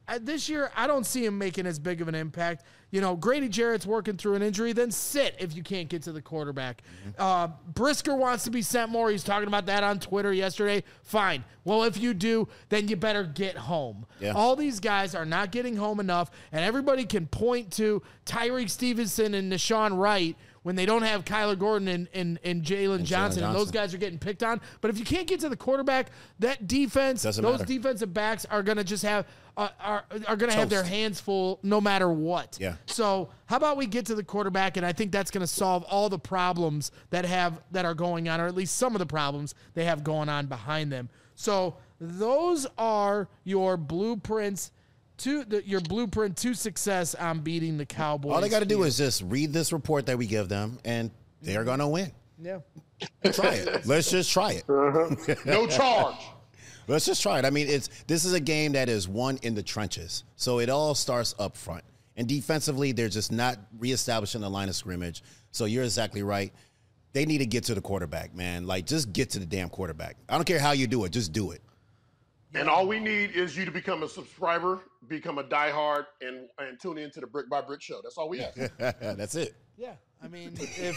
I, this year, I don't see him making as big of an impact. You know, Grady Jarrett's working through an injury, then sit if you can't get to the quarterback. Mm-hmm. Uh, Brisker wants to be sent more. He's talking about that on Twitter yesterday. Fine. Well, if you do, then you better get home. Yeah. All these guys are not getting home enough, and everybody can point to Tyreek Stevenson and Nashawn Wright when they don't have Kyler Gordon and, and, and Jalen Johnson, and those guys are getting picked on. But if you can't get to the quarterback, that defense, Doesn't those matter. defensive backs are going to just have uh, are are going to have their hands full no matter what. Yeah. So how about we get to the quarterback, and I think that's going to solve all the problems that have that are going on, or at least some of the problems they have going on behind them. So those are your blueprints. To the, your blueprint to success on beating the Cowboys. All they got to do is just read this report that we give them, and they're going to win. Yeah. Try it. Let's just try it. Uh-huh. No charge. Let's just try it. I mean, it's this is a game that is won in the trenches. So it all starts up front. And defensively, they're just not reestablishing the line of scrimmage. So you're exactly right. They need to get to the quarterback, man. Like, just get to the damn quarterback. I don't care how you do it. Just do it. And all we need is you to become a subscriber, become a diehard, and and tune into the Brick by Brick show. That's all we ask. That's it. Yeah. I mean,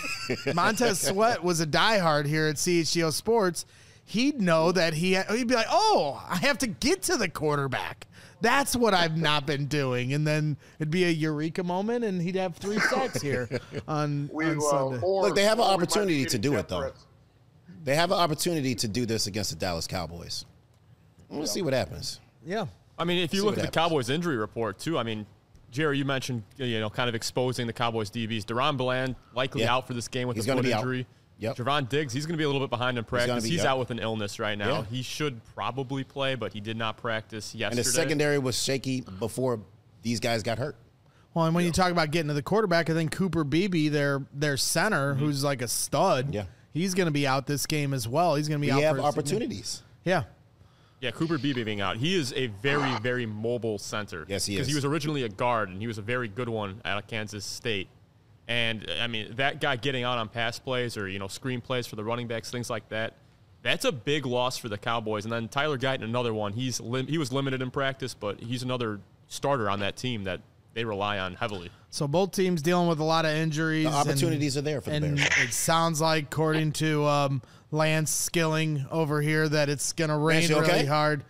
if Montez Sweat was a diehard here at C H G O Sports, he'd know that he ha- he'd be like, oh, I have to get to the quarterback. That's what I've not been doing. And then it'd be a eureka moment, and he'd have three sacks here on, we, on uh, Sunday. or, Look, they have an opportunity to do it, though. threats. They have an opportunity to do this against the Dallas Cowboys. We'll see what happens. Yeah. I mean, if you See look at the happens. Cowboys injury report, too, I mean, Jerry, you mentioned, you know, kind of exposing the Cowboys D Bs. Deron Bland likely Yeah. out for this game with He's a foot be injury. Out. Yep. Javon Diggs, he's going to be a little bit behind in practice. He's, He's, he's yep. out with an illness right now. Yeah. He should probably play, but he did not practice yesterday. And the secondary was shaky before these guys got hurt. Well, and when yeah. you talk about getting to the quarterback, I think Cooper Beebe, their their center, mm-hmm. who's like a stud, yeah. he's going to be out this game as well. He's going to be we out have for opportunities. Yeah. Yeah, Cooper Beebe being out. He is a very, very mobile center. Yes, he is. Because he was originally a guard, and he was a very good one at Kansas State. And, I mean, that guy getting out on pass plays or, you know, screen plays for the running backs, things like that, that's a big loss for the Cowboys. And then Tyler Guyton, another one. He's lim- He was limited in practice, but he's another starter on that team that they rely on heavily. So both teams dealing with a lot of injuries. The opportunities and, are there for the and Bears. It sounds like, according to um, Lance Skilling over here, that it's going to rain Lance, really okay? hard.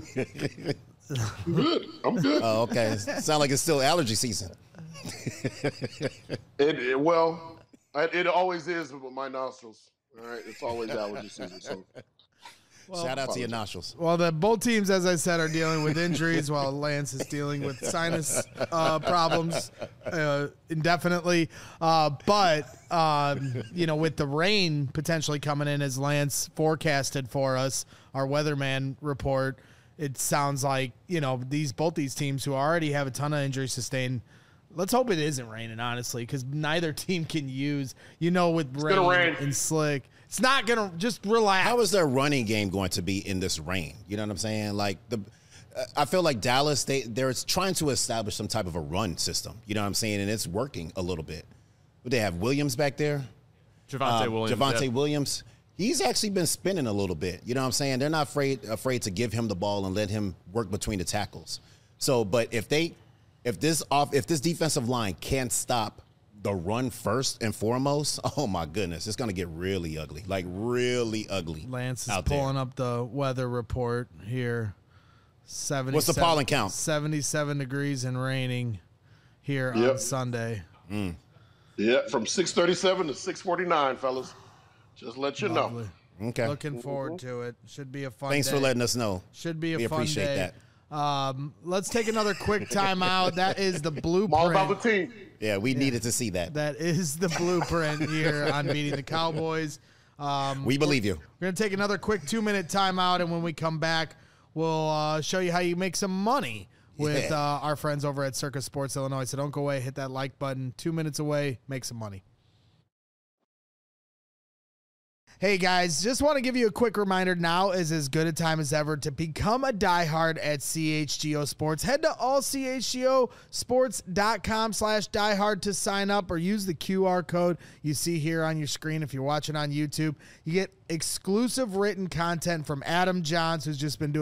I'm good. I'm good. Oh, okay. Sound like it's still allergy season. It, it well, it, it always is with my nostrils. All right, it's always allergy season. So, well, shout out to your nostrils. Well, the both teams, as I said, are dealing with injuries, while Lance is dealing with sinus uh, problems uh, indefinitely. Uh, but um, you know, with the rain potentially coming in, as Lance forecasted for us, our weatherman report, it sounds like, you know, these both these teams who already have a ton of injuries sustained. Let's hope it isn't raining, honestly, because neither team can use, you know, with it's rain, rain and slick. It's not going to just relax. How is their running game going to be in this rain? You know what I'm saying? Like, the, I feel like Dallas, they, they're trying to establish some type of a run system. You know what I'm saying? And it's working a little bit. But they have Williams back there. Javonte um, Williams. Javonte yeah. Williams. He's actually been spinning a little bit. You know what I'm saying? They're not afraid afraid to give him the ball and let him work between the tackles. So, but if they, if this off, if this defensive line can't stop the run first and foremost, oh my goodness, it's going to get really ugly, like really ugly. Lance is out pulling there. up the weather report here. seventy What's the pollen count? seventy-seven degrees and raining here Yep. on Sunday. Mm. yeah, from six thirty-seven to six forty-nine, fellas. Just let you Lovely. know. Okay. Looking forward to it. Should be a fun Thanks day. for letting us know. Should be a We fun appreciate day. that. Um, let's take another quick timeout. That is the I'm all about the blueprint. team. Yeah, we needed to see that. That is the blueprint here on beating the Cowboys. Um, We believe you. We're going to take another quick two-minute timeout, and when we come back, we'll uh, show you how you make some money with Yeah. uh, our friends over at Circus Sports Illinois. So don't go away. Hit that like button. Two minutes away. Make some money. Hey guys, just want to give you a quick reminder. Now is as good a time as ever to become a diehard at C H G O Sports. Head to all c h g o sports dot com slash diehard to sign up, or use the Q R code you see here on your screen if you're watching on YouTube. You get exclusive written content from Adam Johns, who's just been doing an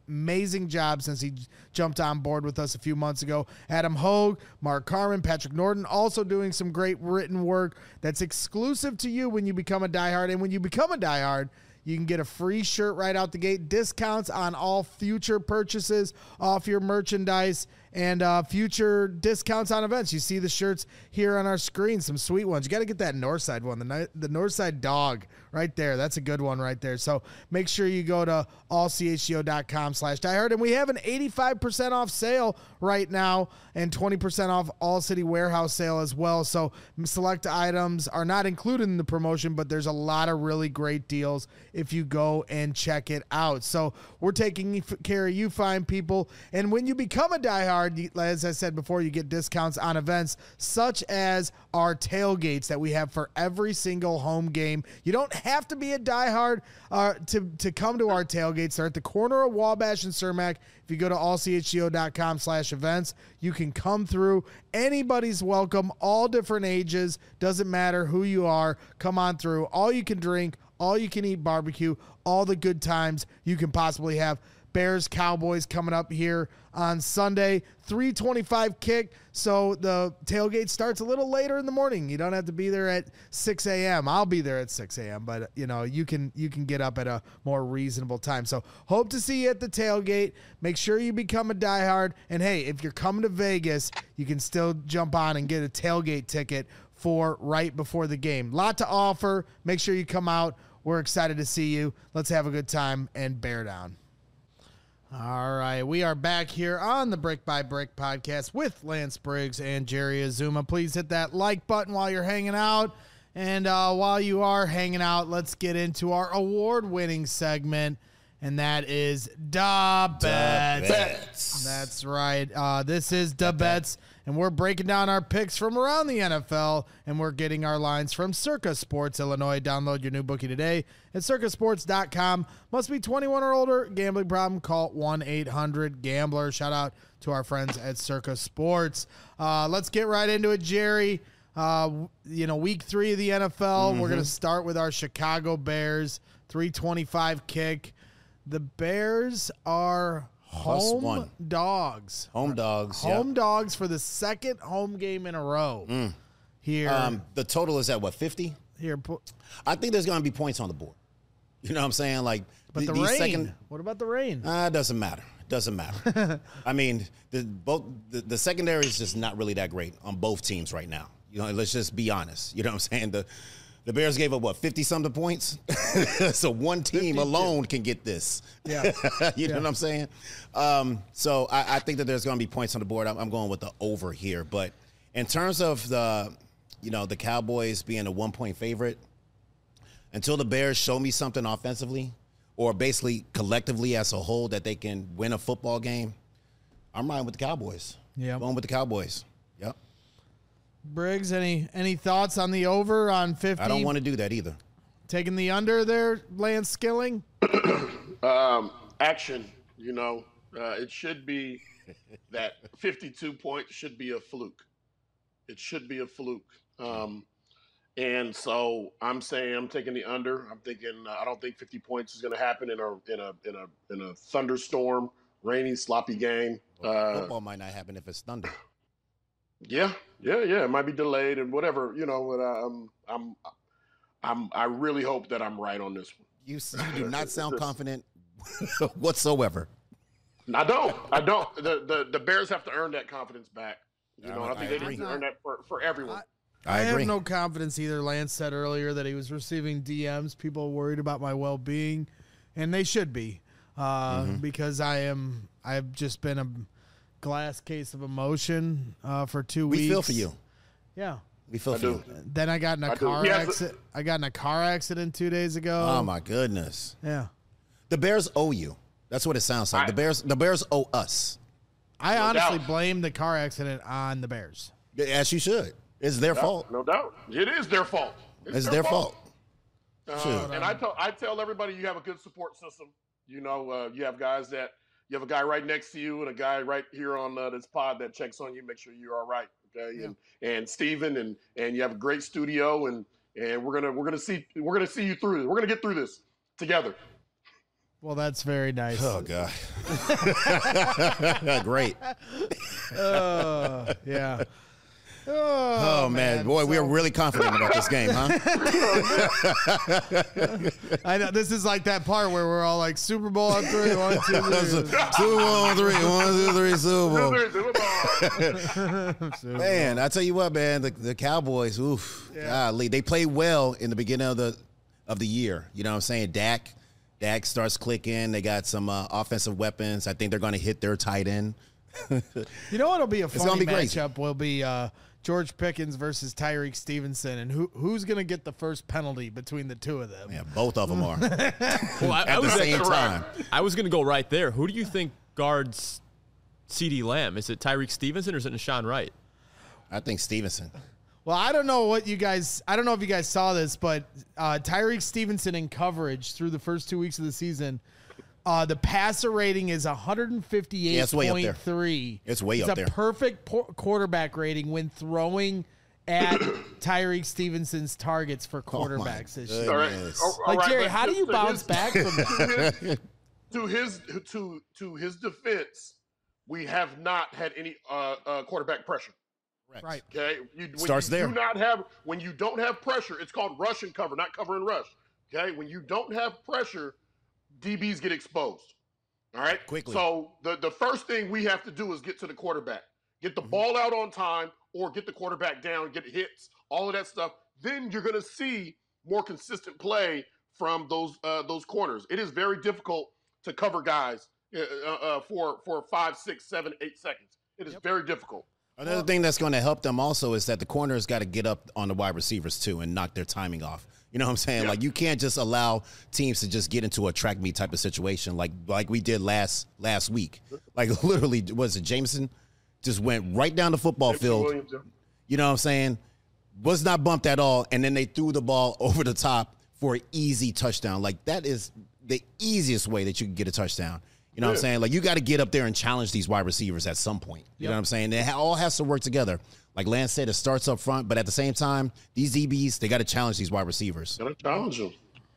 amazing job since he jumped on board with us a few months ago. Adam Hogue, Mark Carmen, Patrick Norton, also doing some great written work that's exclusive to you when you become a diehard. And when you become a diehard, you can get a free shirt right out the gate, discounts on all future purchases off your merchandise, and uh, future discounts on events. You see the shirts here on our screen, some sweet ones. You got to get that Northside one, the, the Northside dog right there. That's a good one right there. So make sure you go to allchgo.com slash diehard. And we have an eighty-five percent off sale right now and twenty percent off All City Warehouse sale as well. So select items are not included in the promotion, but there's a lot of really great deals if you go and check it out. So we're taking care of you fine people. And when you become a diehard, as I said before, you get discounts on events such as our tailgates that we have for every single home game. You don't have to be a diehard uh, to, to come to our tailgates. They're at the corner of Wabash and Cermak. If you go to allchgo.com slash events, you can come through. Anybody's welcome, all different ages. Doesn't matter who you are. Come on through. All you can drink, all you can eat barbecue, all the good times you can possibly have. Bears Cowboys coming up here on Sunday, three twenty-five kick. So the tailgate starts a little later in the morning. You don't have to be there at six a.m. I'll be there at six a.m. But you know, you can, you can get up at a more reasonable time. So hope to see you at the tailgate. Make sure you become a diehard. And hey, if you're coming to Vegas, you can still jump on and get a tailgate ticket for right before the game. Lot to offer. Make sure you come out. We're excited to see you. Let's have a good time and bear down. All right, we are back here on the Brick by Brick podcast with Lance Briggs and Jerry Azuma. Please hit that like button while you're hanging out. And uh, while you are hanging out, let's get into our award-winning segment, and that is Da Bets. Bets. That's right. Uh, this is Da Bets, and we're breaking down our picks from around the N F L, and we're getting our lines from Circa Sports Illinois. Download your new bookie today at circa sports dot com. Must be twenty-one or older. Gambling problem? Call one eight hundred gambler. Shout out to our friends at Circa Sports. Uh, let's get right into it, Jerry. Uh, you know, week three of the N F L. Mm-hmm. We're going to start with our Chicago Bears. three twenty-five kick. The Bears are home dogs. Home dogs. Home yep. dogs for the second home game in a row. Mm. Here, um, the total is at what, fifty? Here, pu- I think there's going to be points on the board. You know what I'm saying? Like, but th- the these rain. Second, what about the rain? Uh, it doesn't matter. It doesn't matter. I mean, the both the, the secondary is just not really that great on both teams right now. You know, let's just be honest. You know what I'm saying? The the Bears gave up what, fifty something points? So one team alone can get this. Yeah. you know yeah. what I'm saying? Um, so I, I think that there's going to be points on the board. I'm, I'm going with the over here. But in terms of the, you know, the Cowboys being a one point favorite, until the Bears show me something offensively, or basically collectively as a whole that they can win a football game, I'm riding with the Cowboys. Yeah, going with the Cowboys. Yep. Briggs, any any thoughts on the over on fifty? I don't want to do that either. Taking the under there, Lance Skilling? um, action, you know, uh, it should be that fifty-two points should be a fluke. It should be a fluke. Um, and so I'm saying I'm taking the under. I'm thinking uh, I don't think fifty points is going to happen in a in a in a in a thunderstorm, rainy, sloppy game. Well, uh, football might not happen if it's thunder. Yeah, yeah, yeah. It might be delayed and whatever, you know. But um, I'm, I'm, I really hope that I'm right on this one. You, you do not sound confident whatsoever. I don't. I don't. The, the the Bears have to earn that confidence back. You know, I, I think I they agree. need to earn that for, for everyone. I, I, I agree. have no confidence either. Lance said earlier that he was receiving D Ms. People worried about my well-being, and they should be, uh, mm-hmm. because I am. I've just been a glass case of emotion uh, for two we weeks. We feel for you. Yeah. We feel I for do. you. Then I got in a I car yes. accident. I got in a car accident two days ago. Oh my goodness. Yeah. The Bears owe you. That's what it sounds like. I, the Bears. The Bears owe us. I no honestly doubt. blame the car accident on the Bears. As you should. It's their no, fault. No doubt. It is their fault. It's, it's their, their fault. fault. Uh, and I tell I tell everybody you have a good support system. You know, uh, you have guys that you have a guy right next to you and a guy right here on uh, this pod that checks on you, make sure you're all right. Okay, yeah. and and Steven and and you have a great studio and and we're gonna we're gonna see we're gonna see you through this. We're gonna get through this together. Well, that's very nice. Oh God. Great. Uh, yeah. Oh, Oh, man, boy, so, we're really confident about this game, huh? I know this is like that part where we're all like Super Bowl on three, one, two, three. Super Bowl on three, one, two, three, Super Bowl. Man, I tell you what, man, the, the Cowboys, oof, Yeah. golly, they played well in the beginning of the of the year. You know what I'm saying? Dak, Dak starts clicking. They got some uh, offensive weapons. I think they're going to hit their tight end. You know what'll be a funny gonna be crazy. matchup will be uh, George Pickens versus Tyreek Stevenson, and who who's going to get the first penalty between the two of them? Yeah, both of them are Well, I, at I the was same actually- time. I was going to go right there. Who do you think guards CeeDee Lamb? Is it Tyreek Stevenson or is it Nashawn Wright? I think Stevenson. Well, I don't know what you guys. I don't know if you guys saw this, but uh, Tyreek Stevenson in coverage through the first two weeks of the season, uh, the passer rating is one fifty-eight Yeah, it's way up there. point three. It's way it's up a there. perfect por- quarterback rating when throwing at Tyreek Stevenson's targets for quarterbacks this year. All right. Goodness. All Like right, Jerry, but how do to- you to bounce his- back from that? to his to to his defense, we have not had any uh, uh, quarterback pressure. Right. Okay, you, when Starts you there. Do not have when you don't have pressure. It's called rush and cover, not cover and rush. Okay, when you don't have pressure, D Bs get exposed. All right, Quickly. So the the first thing we have to do is get to the quarterback, get the Mm-hmm. ball out on time, or get the quarterback down, get hits, all of that stuff. Then you're going to see more consistent play from those uh, those corners. It is very difficult to cover guys uh, uh, for for five, six, seven, eight seconds. It is very difficult. Another thing that's going to help them also is that the corners got to get up on the wide receivers too and knock their timing off. You know what I'm saying? Yeah. Like you can't just allow teams to just get into a track meet type of situation like like we did last last week. Like literally, was it Jameson just went right down the football field? Williams, yeah. You know what I'm saying? Was not bumped at all, and then they threw the ball over the top for an easy touchdown. Like that is the easiest way that you can get a touchdown. You know what I'm Yeah. saying? Like, you got to get up there and challenge these wide receivers at some point. You know what I'm saying? It ha- all has to work together. Like Lance said, it starts up front, but at the same time, these D Bs, they got to challenge these wide receivers. Gotta challenge them.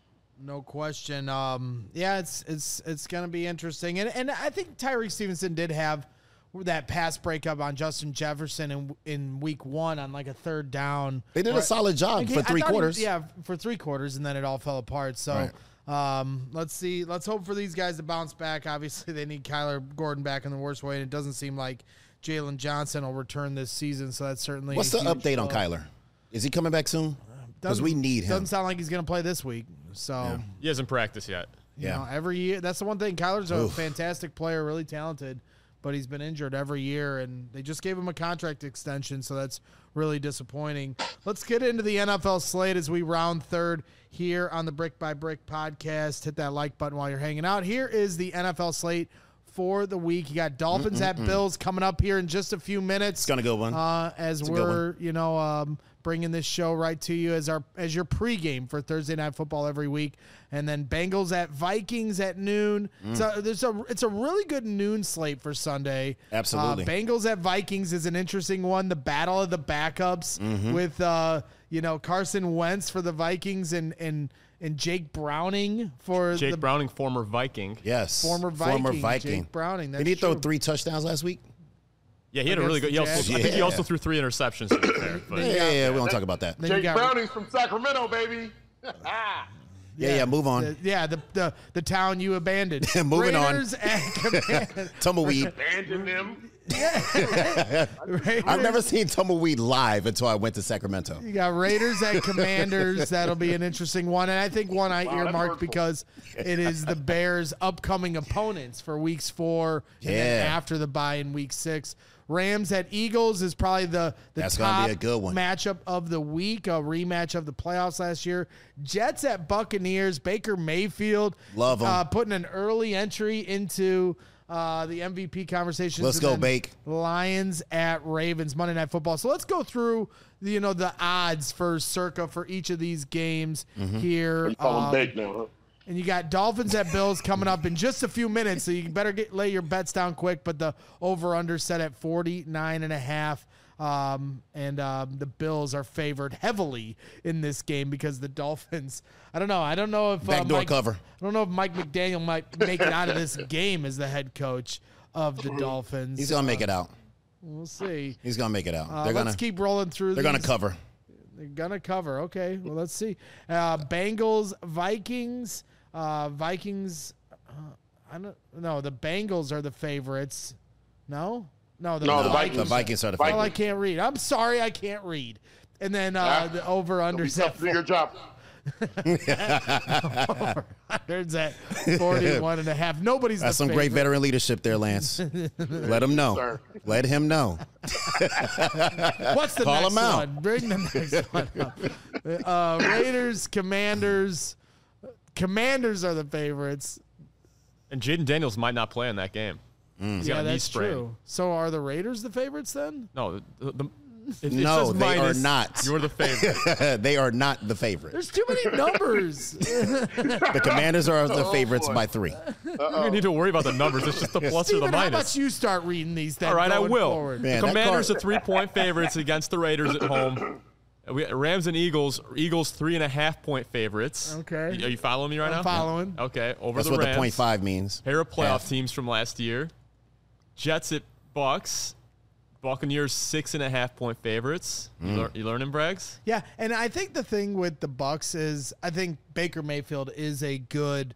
No question. Um, yeah, it's it's it's gonna be interesting, and and I think Tyreek Stevenson did have that pass breakup on Justin Jefferson in in week one on like a third down. They did a Where- solid job Like, for I three thought he- quarters. yeah, for three quarters, and then it all fell apart. So. Right. Um, let's see. Let's hope for these guys to bounce back. Obviously, they need Kyler Gordon back in the worst way, and it doesn't seem like Jalen Johnson will return this season. So that's certainly What's a the huge update on blow. Kyler? Is he coming back soon? Because Doesn't- we need him. Doesn't sound like he's going to play this week. So. He hasn't practiced yet. You Yeah. know, every year. That's the one thing. Kyler's a Oof. fantastic player, really talented, but he's been injured every year, and they just gave him a contract extension, so that's really disappointing. Let's get into the N F L slate as we round third here on the Brick by Brick podcast. Hit that like button while you're hanging out. Here is the N F L slate for the week. You got Dolphins at Bills coming up here in just a few minutes. It's going to go one. Uh, as It's a good we're, you know, um, bringing this show right to you as our as your pregame for Thursday Night Football every week, and then Bengals at Vikings at noon. Mm. So there's a it's a really good noon slate for Sunday. Absolutely. uh, Bengals at Vikings is an interesting one. The battle of the backups Mm-hmm. with uh, you know Carson Wentz for the Vikings and and and Jake Browning for Jake the Browning, former Viking. yes. former Viking. Former Viking. Jake Browning. That's Did he throw true. three touchdowns last week? Yeah, he had a really good. He Against also, the I think he Jags. also threw three interceptions. To be fair, but Yeah, yeah, yeah. We don't talk about that. Then you Jake got- Browning's from Sacramento, baby. Yeah, yeah, move on. The- yeah, the, the the town you abandoned. Moving on. Raiders at Command- Tumbleweed. Abandon them. Raiders- I've never seen Tumbleweed live until I went to Sacramento. You got Raiders at Commanders. That'll be an interesting one, and I think one I Wow, that's earmarked hurtful. because it is the Bears' upcoming opponents for weeks four and then Yeah. after the bye in week six. Rams at Eagles is probably the the That's gonna top be a good one. matchup of the week, a rematch of the playoffs last year. Jets at Buccaneers. Baker Mayfield, Love 'em. uh, putting an early entry into uh, the M V P conversations. Let's And go, then Bake. Lions at Ravens, Monday Night Football. So let's go through, the, you know, the odds for circa for each of these games Mm-hmm. here. You call Um, them bake now, huh? and you got Dolphins at Bills coming up in just a few minutes, so you better get lay your bets down quick. But the over-under set at forty-nine and a half. Um, and um, the Bills are favored heavily in this game because the Dolphins. I don't know. I don't know if uh, Backdoor Mike, cover. I don't know if Mike McDaniel might make it out of this game as the head coach of the Dolphins. He's gonna make it out. We'll see. He's gonna make it out. Uh, they're let's gonna keep rolling through. They're these. gonna cover. They're gonna cover. Okay. Well, let's see. Uh, Bengals, Vikings, uh, Vikings. Uh, I don't. No, the Bengals are the favorites. No. No, the, No, the Vikings. The Vikings are the Well, I favorite. can't read. I'm sorry, I can't read. And then uh, Ah, the over under It'll be tough to do your job. unders at forty-one and a half. Nobody's That's the some great favorite. veteran leadership there, Lance. Let him know. Sir. Let him know. What's the Call next him out. one? Bring the next one up. Uh, Raiders, Commanders. Commanders are the favorites. And Jaden Daniels might not play in that game. He's got Yeah, a knee that's sprain. true. So are the Raiders the favorites then? No, the, the, it, it No, says they are minus, not. You're the favorite. They are not the favorite. There's too many numbers. The Commanders are the Oh, favorites boy. by three. You don't need to worry about the numbers. It's just the plus or the Steven, how about minus. you start reading these then All right, I going will. forward? Man, the that Commanders card- are three-point favorites against the Raiders at home. We Rams and Eagles. Eagles three and a half point favorites. Okay. Are you following me right I'm now? following. Okay. Over That's the what Rams. the point five means. Pair of playoff Half. teams from last year. Jets at Bucks. Buccaneers six and a half point favorites. Mm. You, lear- you learning, Braggs? Yeah, and I think the thing with the Bucks is I think Baker Mayfield is a good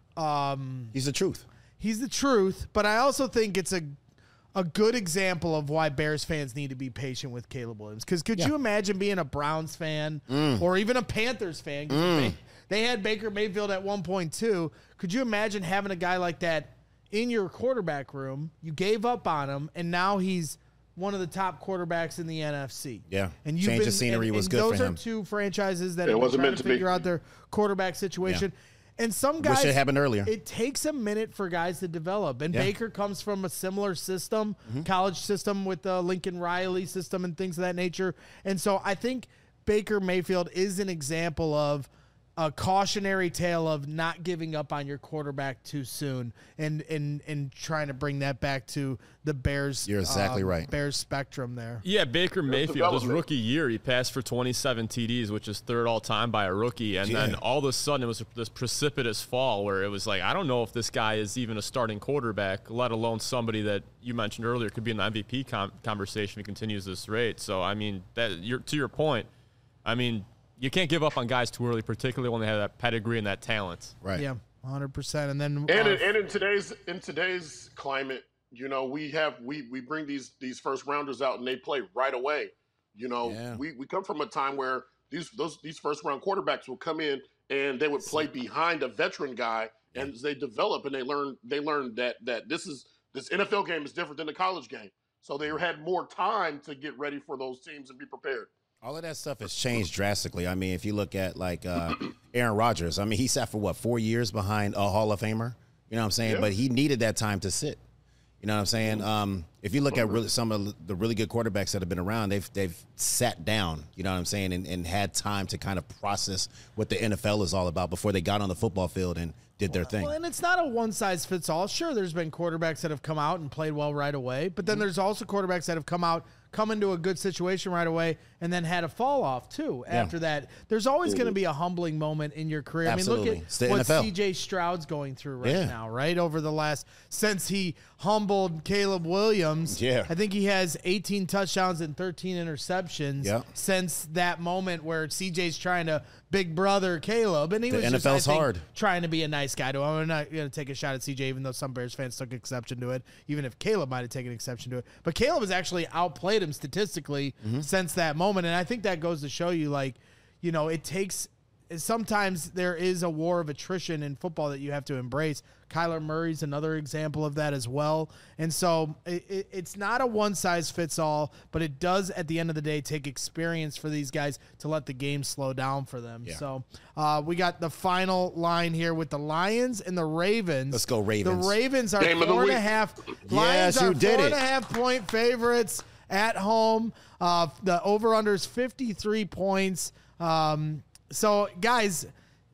um He's the truth. he's the truth, but I also think it's a a good example of why Bears fans need to be patient with Caleb Williams. Because could Yeah. you imagine being a Browns fan Mm. or even a Panthers fan? 'Cause They, they had Baker Mayfield at one point two. Could you imagine having a guy like that in your quarterback room? You gave up on him, and now he's one of the top quarterbacks in the N F C. Yeah. And you've Change of been- scenery and- was and good for those him. are two franchises that It have been wasn't trying meant to to be. figure out their quarterback situation. And some guys, Wish it happened earlier. It takes a minute for guys to develop. And Yeah. Baker comes from a similar system, Mm-hmm. college system with the Lincoln Riley system and things of that nature. And so I think Baker Mayfield is an example of a cautionary tale of not giving up on your quarterback too soon and and and trying to bring that back to the Bears. You're exactly um, right. Bears spectrum there. Yeah, Baker Mayfield, his development. rookie year, he passed for twenty-seven T Ds, which is third all time by a rookie. And then Yeah. all of a sudden, it was this precipitous fall where it was like, I don't know if this guy is even a starting quarterback, let alone somebody that you mentioned earlier could be in the M V P com- conversation if he continues this rate. So, I mean, that you're, to your point, I mean, you can't give up on guys too early, particularly when they have that pedigree and that talent. Right. Yeah, one hundred percent. And then And uh, in, and in today's in today's climate, you know, we have we we bring these these first rounders out and they play right away. You know, Yeah. we, we come from a time where these those these first round quarterbacks will come in and they would play behind a veteran guy, and they develop and they learn they learn that that this is this N F L game is different than the college game. So they had more time to get ready for those teams and be prepared. All of that stuff has changed drastically. I mean, if you look at like uh, Aaron Rodgers, I mean, he sat for what, four years behind a Hall of Famer? You know what I'm saying? Yeah. But he needed that time to sit. You know what I'm saying? Um, if you look at really, some of the really good quarterbacks that have been around, they've they've sat down, you know what I'm saying, and, and had time to kind of process what the N F L is all about before they got on the football field and did their thing. Well, and it's not a one size fits all. Sure, there's been quarterbacks that have come out and played well right away, but then there's also quarterbacks that have come out, come into a good situation right away, and then had a fall off too after that. There's always going to be a humbling moment in your career. I mean, Absolutely. look It's the at what N F L. C J Stroud's going through right Yeah. now, right? Over the last, since he humbled Caleb Williams, Yeah. I think he has eighteen touchdowns and thirteen interceptions Yeah. since that moment where C J's trying to big brother Caleb, and he The was N F just, I L's think, hard. trying to be a nice guy to him. I'm not going to take a shot at C J, even though some Bears fans took exception to it, even if Caleb might have taken exception to it. But Caleb has actually outplayed him statistically Mm-hmm. since that moment. And I think that goes to show you, like, you know, it takes – sometimes there is a war of attrition in football that you have to embrace. Kyler Murray's another example of that as well. And so it, it, it's not a one-size-fits-all, but it does, at the end of the day, take experience for these guys to let the game slow down for them. Yeah. So uh, we got the final line here with the Lions and the Ravens. Let's go Ravens. The Ravens are Game of the four and a week. half. Yes, Lions you are did four it. and a half point favorites at home. Uh, the over-under is fifty-three points. Um, so, guys,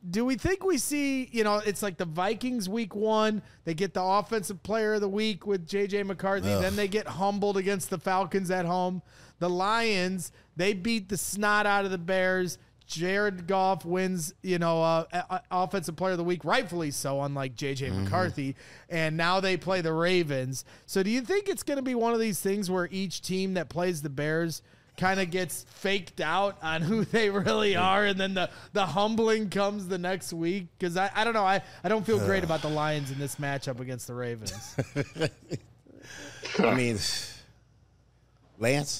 do we think we see, you know, it's like the Vikings week one, they get the offensive player of the week with J J McCarthy. Ugh. Then they get humbled against the Falcons at home. The Lions, they beat the snot out of the Bears. Jared Goff wins, you know, uh, offensive player of the week, rightfully so, unlike J J mm-hmm. McCarthy. And now they play the Ravens. So do you think it's going to be one of these things where each team that plays the Bears kind of gets faked out on who they really are, and then the, the humbling comes the next week? Because I, I don't know. I, I don't feel great about the Lions in this matchup against the Ravens. I mean, Lance?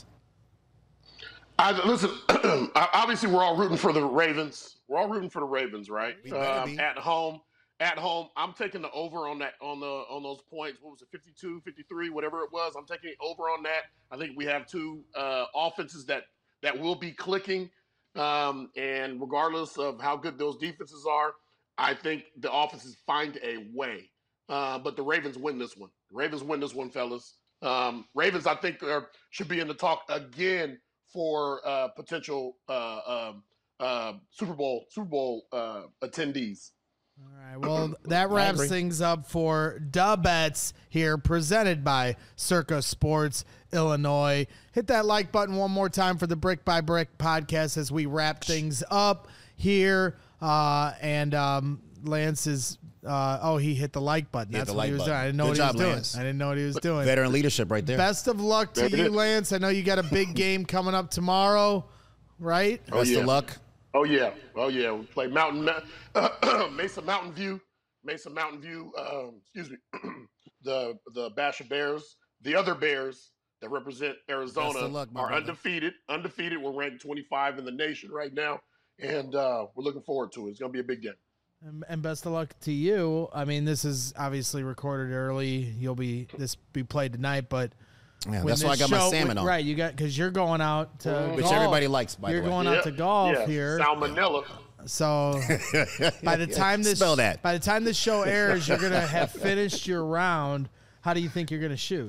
I, listen, obviously we're all rooting for the Ravens. We're all rooting for the Ravens, right? Um, at home. At home, I'm taking the over on that on the on those points. What was it, fifty-two, fifty-three, whatever it was? I'm taking over on that. I think we have two uh, offenses that that will be clicking, um, and regardless of how good those defenses are, I think the offenses find a way. Uh, but the Ravens win this one. The Ravens win this one, fellas. Um, Ravens, I think, are, should be in the talk again for uh, potential uh, um, uh, Super Bowl Super Bowl uh, attendees. All right, well, that wraps things up for Da Bets here, presented by Circa Sports Illinois. Hit that like button one more time for the Brick by Brick podcast as we wrap things up here. Uh, and um, Lance is, uh, oh, he hit the like button. That's what like he was button. doing. I didn't know Good what job, he was Lance. doing. I didn't know what he was doing. Veteran leadership right there. Best of luck to you, Lance. I know you got a big game coming up tomorrow, right? Oh, Best yeah. of luck. Oh, yeah. Oh, yeah. We play Mountain, uh, Mesa Mountain View, Mesa Mountain View, um, excuse me, the the Basha Bears. The other Bears that represent Arizona luck, are brother. undefeated. Undefeated. We're ranked twenty-five in the nation right now, and uh, we're looking forward to it. It's going to be a big game. And, and best of luck to you. I mean, this is obviously recorded early. You'll be this be played tonight, but yeah, that's why I got show, my salmon on. Right, you got because you're going out to which golf. everybody likes. By you're the way, going yeah. out to golf yeah. here. Salmonella. So by the time this Spell that. by the time this show airs, you're gonna have finished your round. How do you think you're gonna shoot?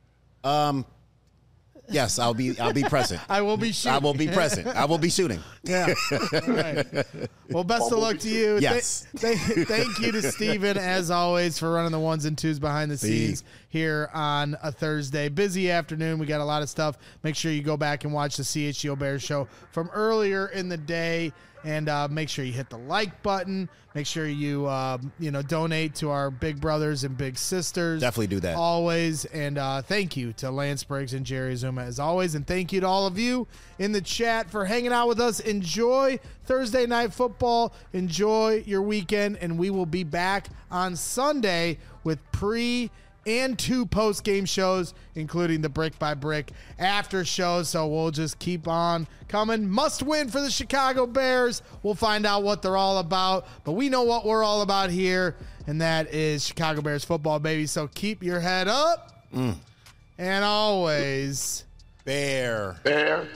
Um. Yes, I'll be. I'll be present. I will be shooting. I will be present. I will be shooting. Yeah. All right. Well, best of luck to you. Yes. Th- th- thank you to Steven, as always, for running the ones and twos behind the scenes See. here on a Thursday. Busy afternoon. We got a lot of stuff. Make sure you go back and watch the C H G O Bears show from earlier in the day. And uh, make sure you hit the like button. Make sure you, uh, you know, donate to our big brothers and big sisters. Definitely do that. Always. And uh, thank you to Lance Briggs and Jerry Zuma, as always. And thank you to all of you in the chat for hanging out with us. Enjoy Thursday Night Football. Enjoy your weekend. And we will be back on Sunday with pre- and two post-game shows, including the Brick by Brick after show. So we'll just keep on coming. Must win for the Chicago Bears. We'll find out what they're all about. But we know what we're all about here, and that is Chicago Bears football, baby. So keep your head up. Mm. And always, Bear. Bear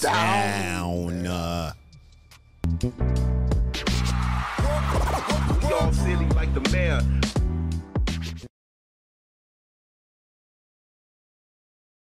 down. down. We all silly like the mayor.